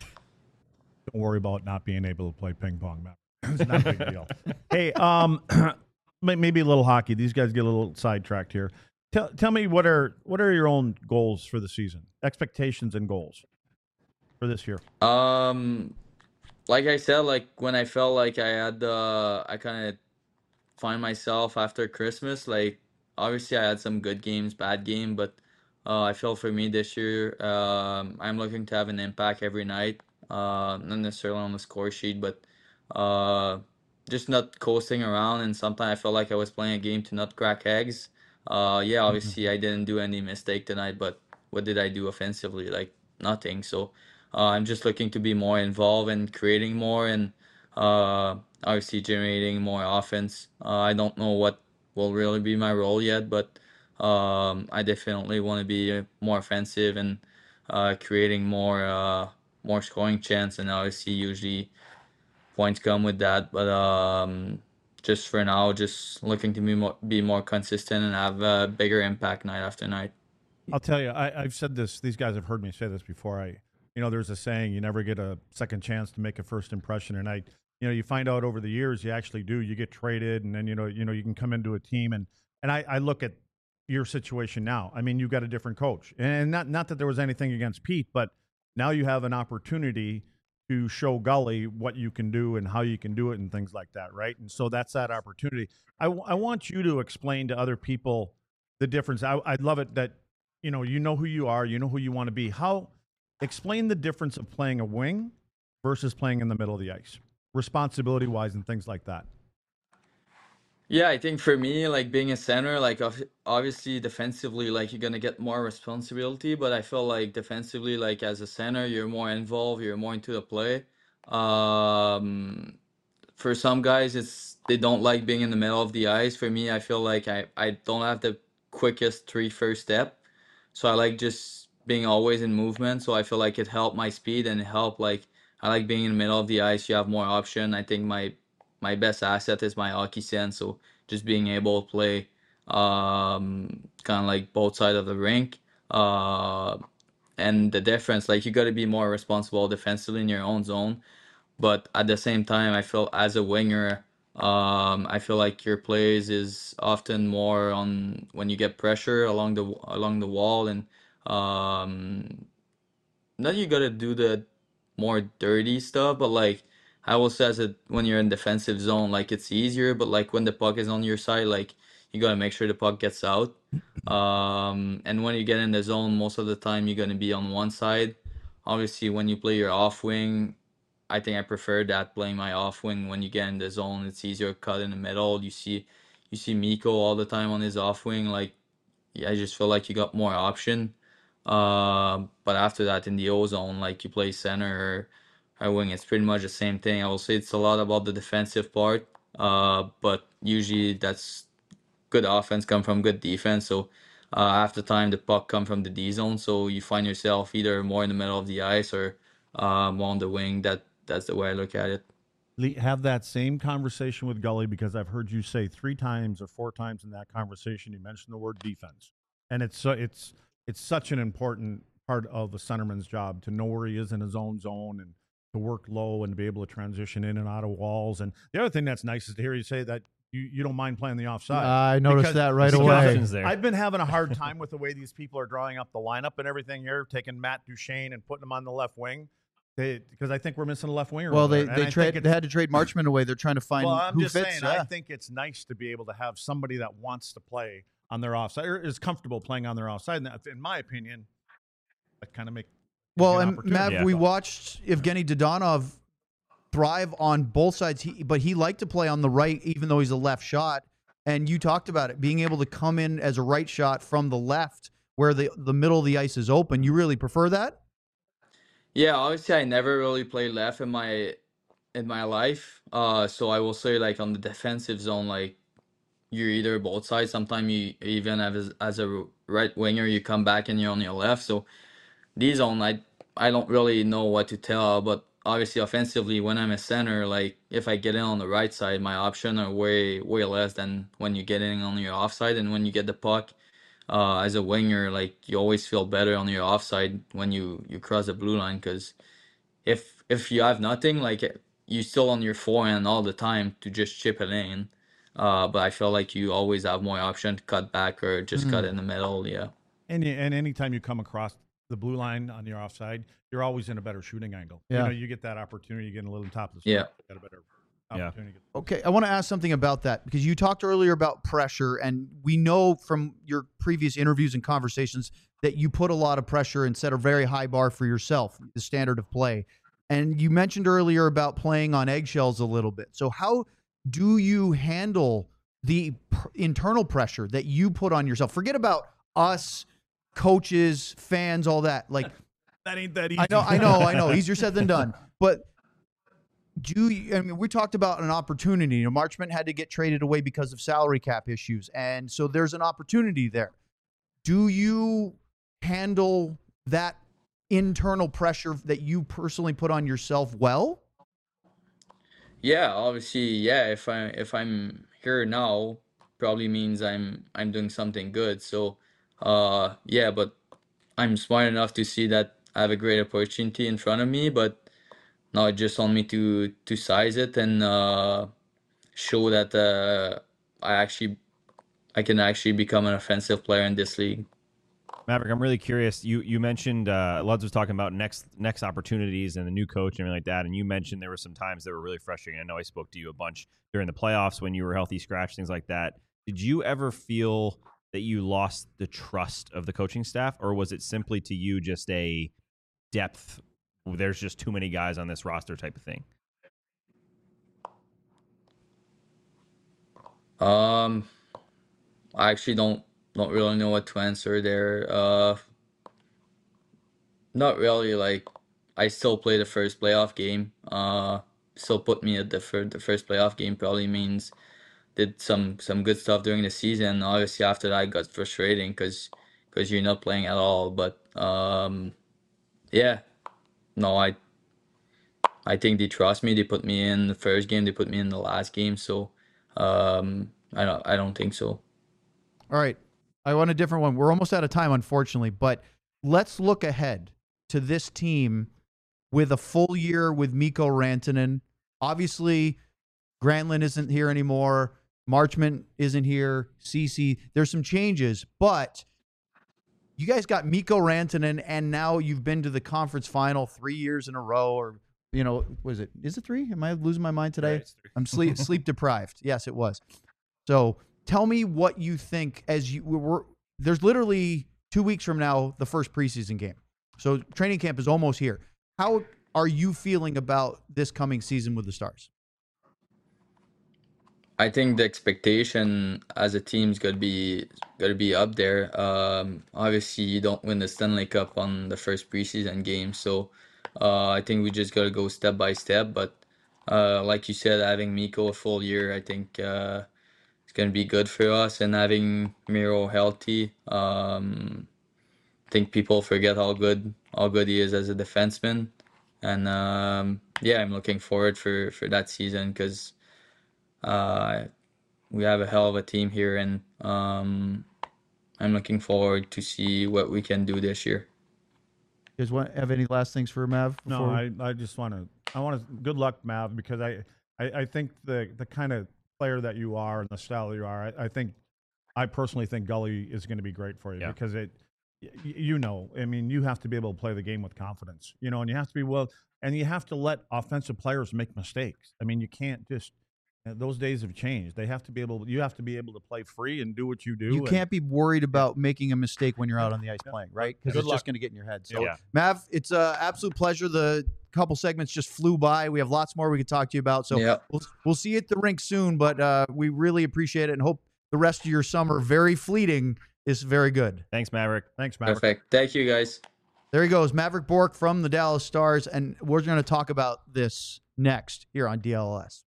Don't worry about not being able to play ping pong, man. It's not a big deal. Hey, um, may- maybe a little hockey. These guys get a little sidetracked here. Tell tell me what are what are your own goals for the season? Expectations and goals for this year. Um, like I said, like when I felt like I had the, I kind of find myself after Christmas. Like obviously, I had some good games, bad game, but uh, I feel for me this year, um, I'm looking to have an impact every night. Uh, not necessarily on the score sheet, but uh, just not coasting around. And sometimes I felt like I was playing a game to not crack eggs. Uh, yeah, obviously I didn't do any mistake tonight, but what did I do offensively? Like nothing. So uh, I'm just looking to be more involved and creating more and uh, obviously generating more offense. Uh, I don't know what will really be my role yet, but um, I definitely want to be uh, more offensive and uh, creating more uh, more scoring chance. And obviously, usually points come with that. But um, just for now, just looking to be more, be more consistent and have a bigger impact night after night. I'll tell you, I, I've said this. These guys have heard me say this before. I, you know, there's a saying: you never get a second chance to make a first impression. And I, you know, you find out over the years, you actually do. You get traded, and then you know, you know, you can come into a team, and and I, I look at your situation now. I mean, you've got a different coach, and not not that there was anything against Pete, but now you have an opportunity to show Gully what you can do and how you can do it and things like that, right? And so that's that opportunity. I, w- I want you to explain to other people the difference. I, I'd love it that, you know, you know who you are, you know who you want to be. How, explain the difference of playing a wing versus playing in the middle of the ice, responsibility wise and things like that? Yeah, I think for me, like being a center, like ob- obviously defensively, like you're gonna get more responsibility, but I feel like defensively, like as a center, you're more involved, you're more into the play. Um, for some guys, it's they don't like being in the middle of the ice. For me, I feel like I I don't have the quickest three first step, so I like just being always in movement. So I feel like it helped my speed and it helped like I like being in the middle of the ice. You have more option. I think my my best asset is my hockey sense. So just being able to play um, kind of like both sides of the rink. Uh, and the difference, like you got to be more responsible defensively in your own zone. But at the same time, I feel as a winger, um, I feel like your plays is often more on when you get pressure along the along the wall, and um, not you gotta do the more dirty stuff, but like I will say that when you're in defensive zone, like it's easier, but like when the puck is on your side, like you gotta make sure the puck gets out. Um, and when you get in the zone, most of the time you're gonna be on one side. Obviously, when you play your off wing, I think I prefer that playing my off wing when you get in the zone. It's easier to cut in the middle. You see, you see Miko all the time on his off wing. Like, yeah, I just feel like you got more option. Uh, but after that, in the O zone, like you play center or, or wing, it's pretty much the same thing. I will say it's a lot about the defensive part. Uh, but usually that's good offense come from good defense. So uh, half the time the puck come from the D zone. So you find yourself either more in the middle of the ice or um, on the wing. That that's the way I look at it. Lee, have that same conversation with Gully, because I've heard you say three times or four times in that conversation you mentioned the word defense, and it's so it's it's such an important part of a centerman's job to know where he is in his own zone and to work low and to be able to transition in and out of walls. And the other thing that's nice is to hear you say that you, you don't mind playing the offside. I noticed Because- that right There's away. options there. I've been having a hard time with the way these people are drawing up the lineup and everything here, taking Matt Duchene and putting him on the left wing. They, because I think we're missing a left winger. Well, over they there. And they I think trade. it's- They had to trade Marchman away. They're trying to find well, I'm who just fits. saying, yeah. I think it's nice to be able to have somebody that wants to play on their offside or is comfortable playing on their offside. And that, in my opinion, that kind of make Well, an and opportunity. Mav, Yeah. we watched Evgeny Dodonov thrive on both sides, he, but he liked to play on the right, even though he's a left shot. And you talked about it, being able to come in as a right shot from the left where the, the middle of the ice is open. You really prefer that? Yeah, obviously I never really played left in my in my life. Uh, so I will say like on the defensive zone, like you're either both sides. Sometimes you even as as a right winger, you come back and you're on your left. So D zone, I I don't really know what to tell, but obviously offensively, when I'm a center, like if I get in on the right side, my option are way way less than when you get in on your offside, and when you get the puck. Uh, as a winger, like you always feel better on your offside when you you cross the blue line, because if if you have nothing, like you still on your forehand all the time to just chip it in. Uh, but I feel like you always have more option to cut back or just cut in the middle. Yeah. And you, and anytime you come across the blue line on your offside, you're always in a better shooting angle. Yeah. You know, you get that opportunity, you get a little top of the Yeah. score, you got a better Yeah. opportunity. Okay, I want to ask something about that because you talked earlier about pressure, and we know from your previous interviews and conversations that you put a lot of pressure and set a very high bar for yourself, the standard of play. And you mentioned earlier about playing on eggshells a little bit. So how do you handle the pr- internal pressure that you put on yourself? Forget about us, coaches, fans, all that. Like, That ain't that easy. I know, I know, I know. Easier said than done. But do you, I mean, we talked about an opportunity. You know, Marchment had to get traded away because of salary cap issues, and so there's an opportunity there. Do you handle that internal pressure that you personally put on yourself well? Yeah, obviously, yeah. If I if I'm here now, probably means I'm I'm doing something good. So, uh, yeah. But I'm smart enough to see that I have a great opportunity in front of me. But now it's just on me to to size it and uh, show that uh, I actually I can actually become an offensive player in this league. Maverick, I'm really curious. You you mentioned uh, Luds was talking about next next opportunities and the new coach and everything like that, and you mentioned there were some times that were really frustrating. I know I spoke to you a bunch during the playoffs when you were healthy scratch, things like that. Did you ever feel that you lost the trust of the coaching staff, or was it simply to you just a depth there's just too many guys on this roster type of thing? Um, I actually don't don't really know what to answer there. Uh, not really. Like, I still play the first playoff game. Uh, still put me at the first the first playoff game probably means did some some good stuff during the season. Obviously, after that, it got frustrating because because you're not playing at all. But um, yeah, no, I I think they trust me. They put me in the first game. They put me in the last game. So um, I don't I don't think so. All right. I want a different one. We're almost out of time, unfortunately, but let's look ahead to this team with a full year with Mikko Rantanen. Obviously, Granlund isn't here anymore. Marchment isn't here. Ceci. There's some changes, but you guys got Mikko Rantanen, and now you've been to the conference final three years in a row, or, you know, was it? Is it three? Am I losing my mind today? Right, I'm sleep sleep deprived. Yes, it was. So tell me what you think as you were. There's literally two weeks from now, the first preseason game. So training camp is almost here. How are you feeling about this coming season with the Stars? I think the expectation as a team's gonna be gonna be up there. Um, obviously, you don't win the Stanley Cup on the first preseason game, so uh, I think we just gotta go step by step. But uh, like you said, having Mikko a full year, I think uh, it's gonna be good for us, and having Miro healthy. Um, I think people forget how good how good he is as a defenseman, and um, yeah, I'm looking forward for for that season because. Uh, we have a hell of a team here, and um, I'm looking forward to see what we can do this year. You guys want have any last things for Mav? No, I, I just want to I want to good luck, Mav, because I, I, I think the the kind of player that you are and the style that you are, I, I think I personally think Gully is going to be great for you Yeah. because it y- you know, I mean, you have to be able to play the game with confidence, you know, and you have to be well, and you have to let offensive players make mistakes. I mean, you can't just those days have changed. They have to be able. You have to be able to play free and do what you do. You and, can't be worried about making a mistake when you're out on the ice Yeah. playing, right? Because Good it's luck. just going to get in your head. So, Yeah. Mav, it's an absolute pleasure. The couple segments just flew by. We have lots more we could talk to you about. So Yeah. we'll, we'll see you at the rink soon, but uh, we really appreciate it and hope the rest of your summer, very fleeting, is very good. Thanks, Maverick. Thanks, Maverick. Perfect. Thank you, guys. There he goes, Maverick Bourque from the Dallas Stars, and we're going to talk about this next here on D L S.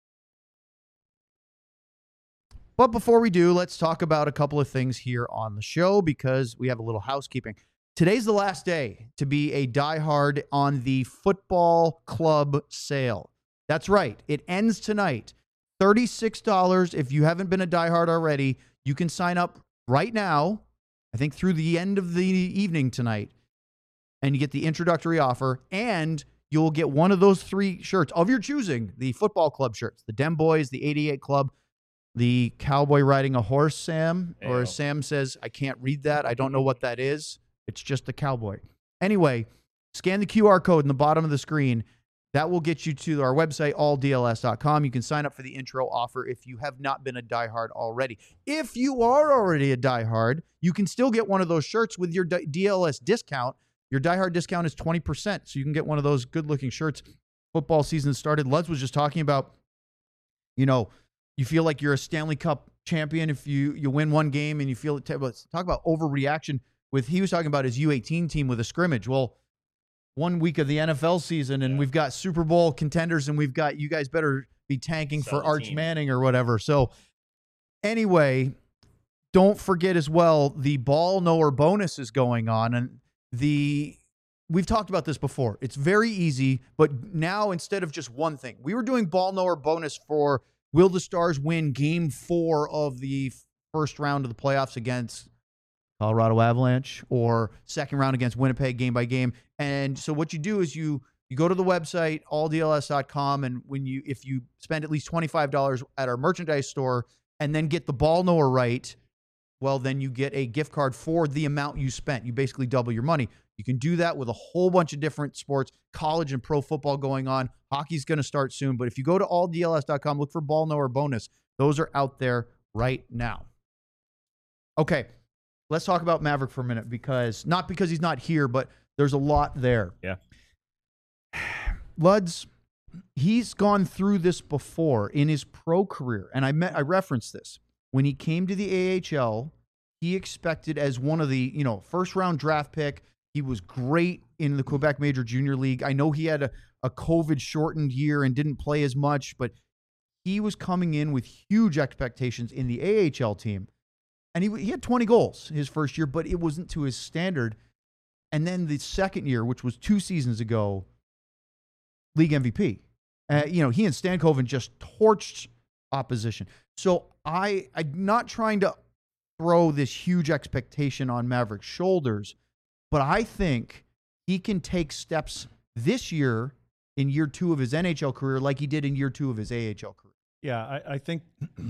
But before we do, let's talk about a couple of things here on the show because we have a little housekeeping. Today's the last day to be a diehard on the football club sale. That's right. It ends tonight. thirty-six dollars. If you haven't been a diehard already, you can sign up right now, I think through the end of the evening tonight, and you get the introductory offer, and you'll get one of those three shirts of your choosing, the football club shirts, the Dem Boys, the eighty-eight Club, the cowboy riding a horse, Sam, or as Ayo. Sam says, I can't read that. I don't know what that is. It's just a cowboy. Anyway, scan the Q R code in the bottom of the screen. That will get you to our website, all D L S dot com. You can sign up for the intro offer if you have not been a diehard already. If you are already a diehard, you can still get one of those shirts with your D L S discount. Your diehard discount is twenty percent, so you can get one of those good-looking shirts. Football season started. Lutz was just talking about, you know, you feel like you're a Stanley Cup champion if you, you win one game and you feel it. Talk about overreaction. With he was talking about his U eighteen team with a scrimmage. Well, one week of the N F L season and Yeah. we've got Super Bowl contenders and we've got you guys better be tanking Sell for the Arch team. Manning or whatever. So anyway, don't forget as well the ball knower bonus is going on, and the we've talked about this before. It's very easy, but now instead of just one thing, we were doing ball knower bonus for will the Stars win game four of the first round of the playoffs against Colorado Avalanche or second round against Winnipeg game by game. And so what you do is you you go to the website, all D L S dot com, and when you if you spend at least twenty-five dollars at our merchandise store and then get the ball knower right, well, then you get a gift card for the amount you spent. You basically double your money. You can do that with a whole bunch of different sports, college and pro football going on. Hockey's going to start soon. But if you go to all D L S dot com, look for ball knower bonus. Those are out there right now. Okay, let's talk about Maverick for a minute because not because he's not here, but there's a lot there. Yeah. Luds, he's gone through this before in his pro career, and I met I referenced this when he came to the A H L. He expected as one of the you know first round draft pick. He was great in the Quebec Major Junior League. I know he had a, a COVID shortened year and didn't play as much, but he was coming in with huge expectations in the A H L team. And he, he had twenty goals his first year, but it wasn't to his standard. And then the second year, which was two seasons ago, league M V P. Uh, you know, he and Stankoven just torched opposition. So I, I'm not trying to throw this huge expectation on Maverick's shoulders, but I think he can take steps this year in year two of his N H L career like he did in year two of his A H L career. Yeah, I, I think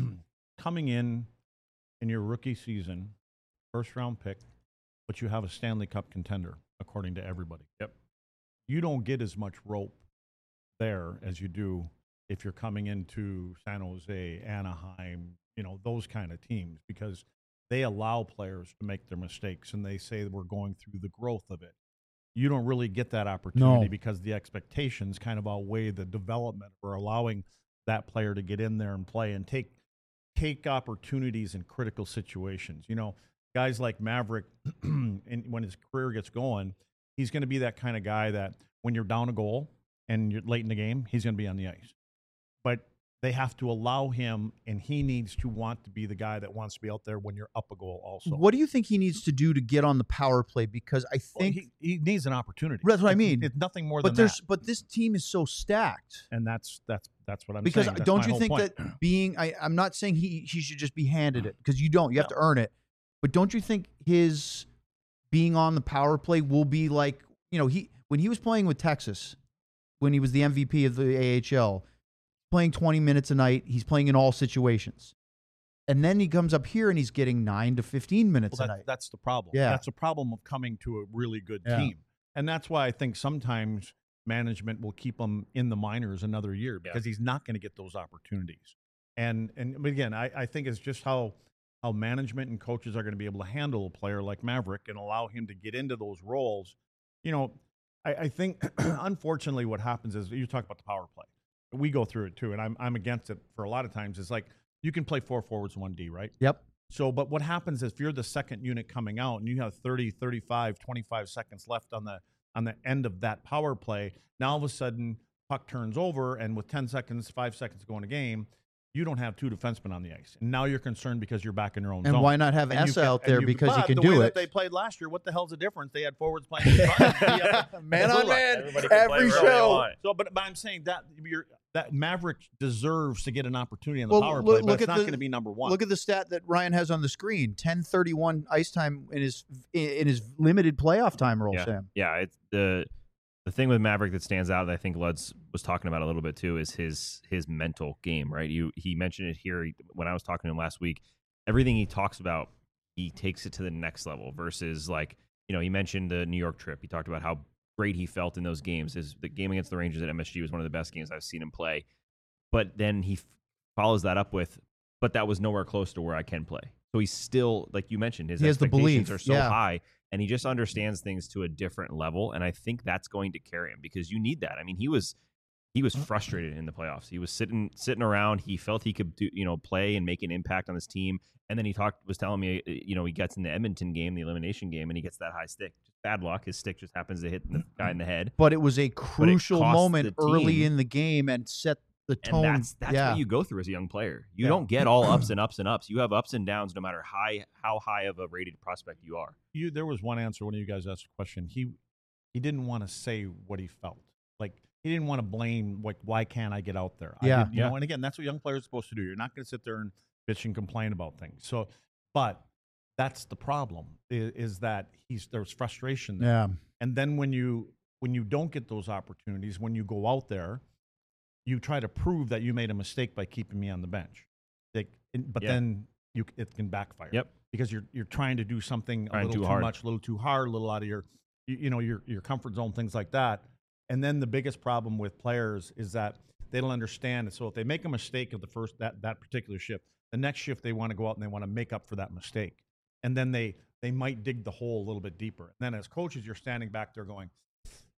coming in in your rookie season, first round pick, but you have a Stanley Cup contender, according to everybody. Yep. You don't get as much rope there as you do if you're coming into San Jose, Anaheim, you know, those kind of teams, because they allow players to make their mistakes and they say that we're going through the growth of it. You don't really get that opportunity No. because the expectations kind of outweigh the development or allowing that player to get in there and play and take take opportunities in critical situations. You know, guys like Maverick, and when his career gets going, he's going to be that kind of guy that when you're down a goal and you're late in the game, he's going to be on the ice. But they have to allow him, and he needs to want to be the guy that wants to be out there when you're up a goal also. What do you think he needs to do to get on the power play? Because I Well, think, he, he needs an opportunity. That's what I It's- mean. It's nothing more but than there's, that. but this team is so stacked. And that's that's that's what I'm Because saying. That's don't my you whole think point. that being, I, I'm not saying he, he should just be handed it, because you don't, you have to earn it. But don't you think his being on the power play will be like, you know, he, when he was playing with Texas, when he was the M V P of the A H L, playing twenty minutes a night, he's playing in all situations. And then he comes up here and he's getting nine to fifteen minutes Well, a that, night. that's the problem. Yeah. That's the problem of coming to a really good Yeah. team. And that's why I think sometimes management will keep him in the minors another year because he's not going to get those opportunities. And and but again, I, I think it's just how how management and coaches are going to be able to handle a player like Maverick and allow him to get into those roles. You know, I, I think unfortunately what happens is you talk about the power play. We go through it too, and I'm I'm against it for a lot of times. It's like you can play four forwards, one D, right? Yep. So, but what happens is if you're the second unit coming out and you have thirty, thirty-five, twenty-five seconds left on the on the end of that power play, now all of a sudden puck turns over, and with ten seconds, five seconds to go in a game, you don't have two defensemen on the ice. And now you're concerned because you're back in your own And zone. why not have And you Essa can- out and there you- because he but can the do way it? that they played last year, what the hell's the difference? They had forwards playing in front. Yeah. Man on man, Everybody can play every wherever they show. want. So, but, but I'm saying that you're, that Maverick deserves to get an opportunity on the Well, power look- play, but look it's at not the- going to be number one. Look at the stat that Ryan has on the screen: ten thirty-one ice time in his in his limited playoff time role. Yeah. Sam. Yeah, it's the the thing with Maverick that stands out that I think Lutz was talking about a little bit too is his his mental game, right? You he mentioned it here when I was talking to him last week. Everything he talks about, he takes it to the next level versus like, you know, he mentioned the New York trip. He talked about how great he felt in those games. His the game against the Rangers at M S G was one of the best games I've seen him play. But then he f- follows that up with, but that was nowhere close to where I can play. So he's still, like you mentioned, his He has the expectations belief, are so yeah. high, and he just understands things to a different level. And I think that's going to carry him because you need that. I mean, he was he was frustrated in the playoffs. He was sitting sitting around. He felt he could do, you know, play and make an impact on this team. And then he talked was telling me, you know, he gets in the Edmonton game, the elimination game, and he gets that high stick. Just bad luck. His stick just happens to hit the guy in the head. But it was a crucial cost moment the early team. in the game and set the tone. And that's that's yeah. what you go through as a young player. You Yeah. don't get all ups and ups and ups. You have ups and downs no matter high how high of a rated prospect you are. you there was one answer when you guys asked a question. He he didn't want to say what he felt. Like he didn't want to blame like why can't I get out there? I Yeah. did- you Yeah. know, and again, that's what young players are supposed to do. You're not going to sit there and bitch and complain about things. So, but that's the problem is, is that he's there's frustration there. Yeah. And then when you when you don't get those opportunities, when you go out there, you try to prove that you made a mistake by keeping me on the bench. Like, and- but Yeah. then you it can backfire. Yep. Because you're you're trying to do something Trying a little too too, hard. much, a little too hard, a little out of your you, you know your your comfort zone, things like that. And then the biggest problem with players is that they don't understand it. So if they make a mistake of the first that that particular shift, the next shift they want to go out and they want to make up for that mistake. And then they they might dig the hole a little bit deeper. And then as coaches, you're standing back there going,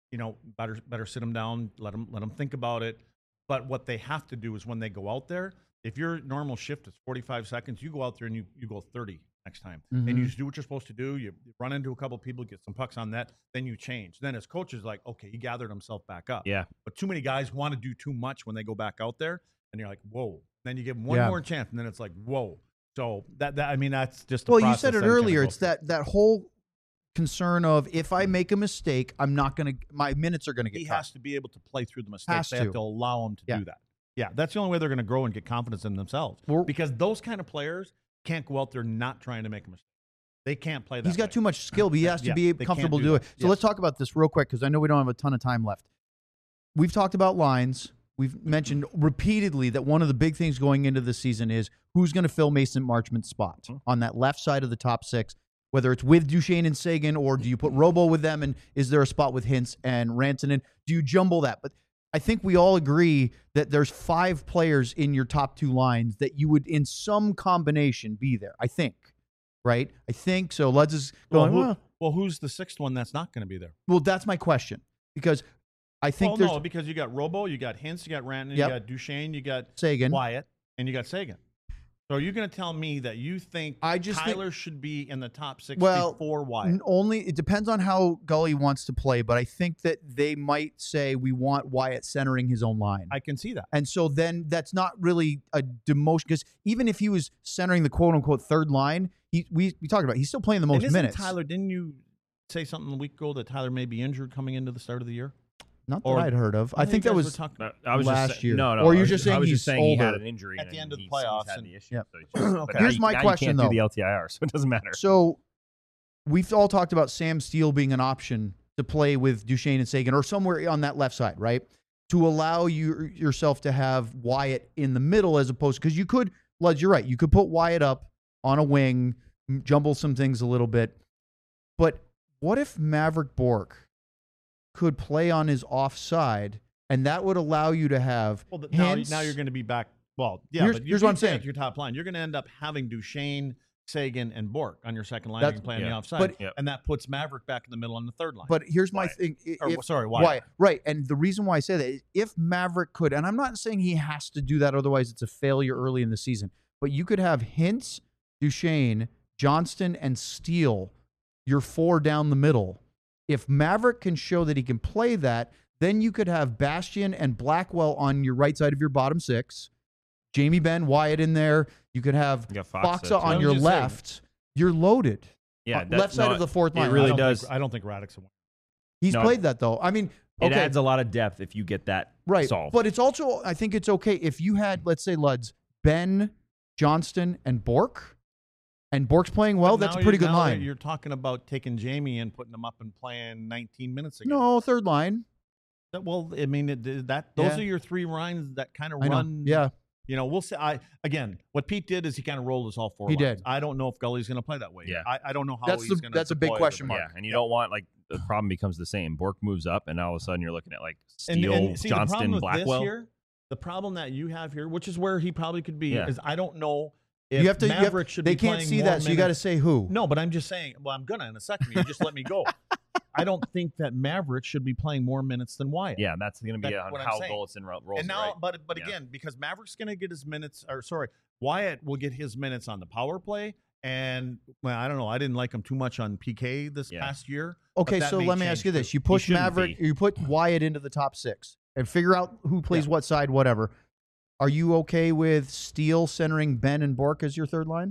you know, better better sit them down, let them let them think about it. But what they have to do is when they go out there, if your normal shift is forty-five seconds, you go out there and you, you go thirty next time. Mhm. And you just do what you're supposed to do. You run into a couple people, get some pucks on net, then you change. Then as coaches, like, okay, he gathered himself back up. Yeah. But too many guys want to do too much when they go back out there, and you're like, whoa. Then you give them one Yeah. more chance, and then it's like, whoa. So that, that I mean, that's just the Well, you process said it that you gotta earlier. go It's through. that that whole concern of if I make a mistake, I'm not going to, my minutes are going to get He cut. has to be able to play through the mistakes. Has they to. have to allow him to Yeah. do that. Yeah, that's the only way they're going to grow and get confidence in themselves. We're- because those kind of players can't go out there not trying to make a mistake. They can't play that. He's got way. too much skill, but he has to Yeah, be they comfortable to can't do do it. that. So Yes. let's talk about this real quick because I know we don't have a ton of time left. We've talked about lines. We've mentioned repeatedly that one of the big things going into the season is who's going to fill Mason Marchment's spot Mm-hmm. on that left side of the top six, whether it's with Duchesne and Sagan, or do you put Robo with them, and is there a spot with Hintz and Rantanen? Do you jumble that? But I think we all agree that there's five players in your top two lines that you would, in some combination, be there. I think, right? I think so. Let's just Well, going. who- well, well, who's the sixth one that's not going to be there? well, that's my question because I think well, there's no, because you got Robo, you got Hintz, you got Rantanen, Yep. you got Duchesne, you got Sagan. Wyatt, and you got Sagan. So are you going to tell me that you think I just think- Tyler should be in the top six Well, before Wyatt? N- Only it depends on how Gully wants to play, but I think that they might say we want Wyatt centering his own line. I can see that. And so then that's not really a demotion because even if he was centering the quote unquote third line, he we, we talked about it, he's still playing the most and isn't minutes. Tyler, didn't you say something a week ago that Tyler may be injured coming into the start of the year? Not that or- I'd heard of. I know think you that guys was were talking- No, I was last just say- year. No, no. Or I you're was just I saying was he's just saying he had older. an injury At and the end of the he's- he's playoffs had and- the issue. Yep. So he's- but Okay. now Here's you- my now question, you can't though. do the L T I R, so it doesn't matter. So we've all talked about Sam Steele being an option to play with Duchesne and Sagan or somewhere on that left side, right? To allow you yourself to have Wyatt in the middle as opposed because you could, Luds, you're right. You could put Wyatt up on a wing, m- jumble some things a little bit. But what if Maverick Bourque could play on his offside and that would allow you to have Well, the, now, Hintz- now you're going to be back. Well, yeah, Here's- but you here's what I'm keep saying saying. at your top line. You're going to end up having Duchesne, Sagan, and Bork on your second line. That's- You can play on the yeah. offside, But- Yep. and that puts Maverick back in the middle on the third line. But here's my Wyatt. thing. i- Or, if- sorry, Wyatt. Right. And the reason why I say that is if Maverick could, and I'm not saying he has to do that, otherwise it's a failure early in the season, but you could have Hintz, Duchesne, Johnston, and Steele, your four down the middle. If Maverick can show that he can play that, then you could have Bastian and Blackwell on your right side of your bottom six, Jamie Benn, Wyatt in there. You could have You got Fox Foxa there, too. on I was your just saying. left. You're loaded. Yeah, Uh, that- left side no, of the fourth it line. I really don't does. Think, I don't think Radek's a winner. He's No. played that though. I mean, It okay. adds a lot of depth if you get that Right. solved. But it's also, I think it's okay if you had, let's say, Luds, Ben, Johnston, and Bork, and Bork's playing well, But that's a now pretty you're- good now line. You're talking about taking Jamie and putting him up and playing nineteen minutes again. No, third line. That, well, I mean, it, that those Yeah. are your three lines that kind of I know. run. Yeah. You know, we'll say. I again, what Pete did is he kind of rolled us all four. He lines. did. I don't know if Gully's going to play that way. Yeah. I, I don't know how That's he's the- going that's a big question mark. yeah, and you don't want like the problem becomes the same. Bork moves up, and all of a sudden you're looking at like And, Steele, and see, the problem Johnston, with Blackwell. this here, the problem that you have here, which is where he probably could be, Yeah. is I don't know if You have to, you have- Maverick should they be can't playing see more that, so you got to minutes. say who. No, but I'm just saying. Well, I'm gonna in a second. You just let me go. I don't think that Maverick should be playing more minutes than Wyatt. Yeah, that's going to be That's on what I'm how saying. Goliath ro- rolls. And it, now, right? but but Yeah. again, because Maverick's going to get his minutes, or sorry, Wyatt will get his minutes on the power play. And well, I don't know. I didn't like him too much on P K this Yeah. past year. but Okay, that so may let me ask change you this. too. You push shouldn't Maverick, be. you put Wyatt into the top six and figure out who plays Yeah. what side, whatever. Are you okay with Steele centering Ben and Bork as your third line?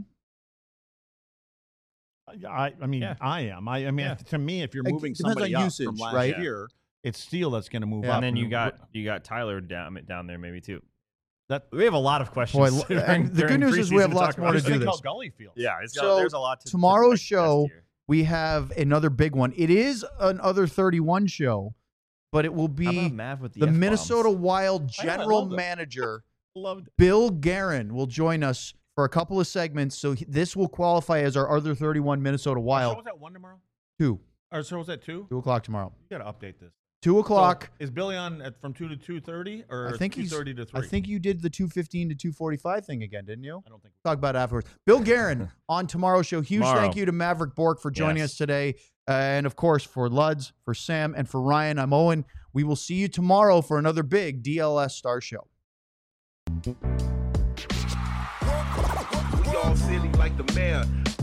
I, I mean, Yeah. I am. I, I mean, Yeah. to me, if you're It moving depends somebody on up usage, from last right? year, it's Steele that's going to move Yeah. up. and then you And got you got Tyler down down there maybe too. that. We have a lot of questions. Boy, during- and the good during news is we have preseason lots talk more to about. do Think this. how Gully feels. Yeah, it's got, So, there's a lot. To, tomorrow's to digest show- here. We have another big one. It is another thirty-one show, but it will How be about Mav with the, the F-bombs? Minnesota Wild I know, I general love it. manager, Loved. Bill Guerin, will join us for a couple of segments. So he- this will qualify as our other thirty-one Minnesota So Wild. was that one tomorrow? Two. Or so was that two? Two o'clock tomorrow. You got to update this. Two o'clock. So is Billy on at, from two to two thirty, or I think two he's. thirty to I three? think you did the two fifteen to two forty-five thing again, didn't you? I don't think. Talk about it afterwards. Bill Guerin on tomorrow's show. Huge Tomorrow. thank you to Maverick Bork for joining Yes. us today. And of course, for Luds, for Sam, and for Ryan, I'm Owen. We will see you tomorrow for another big D L S Star Show. We all silly like the mayor.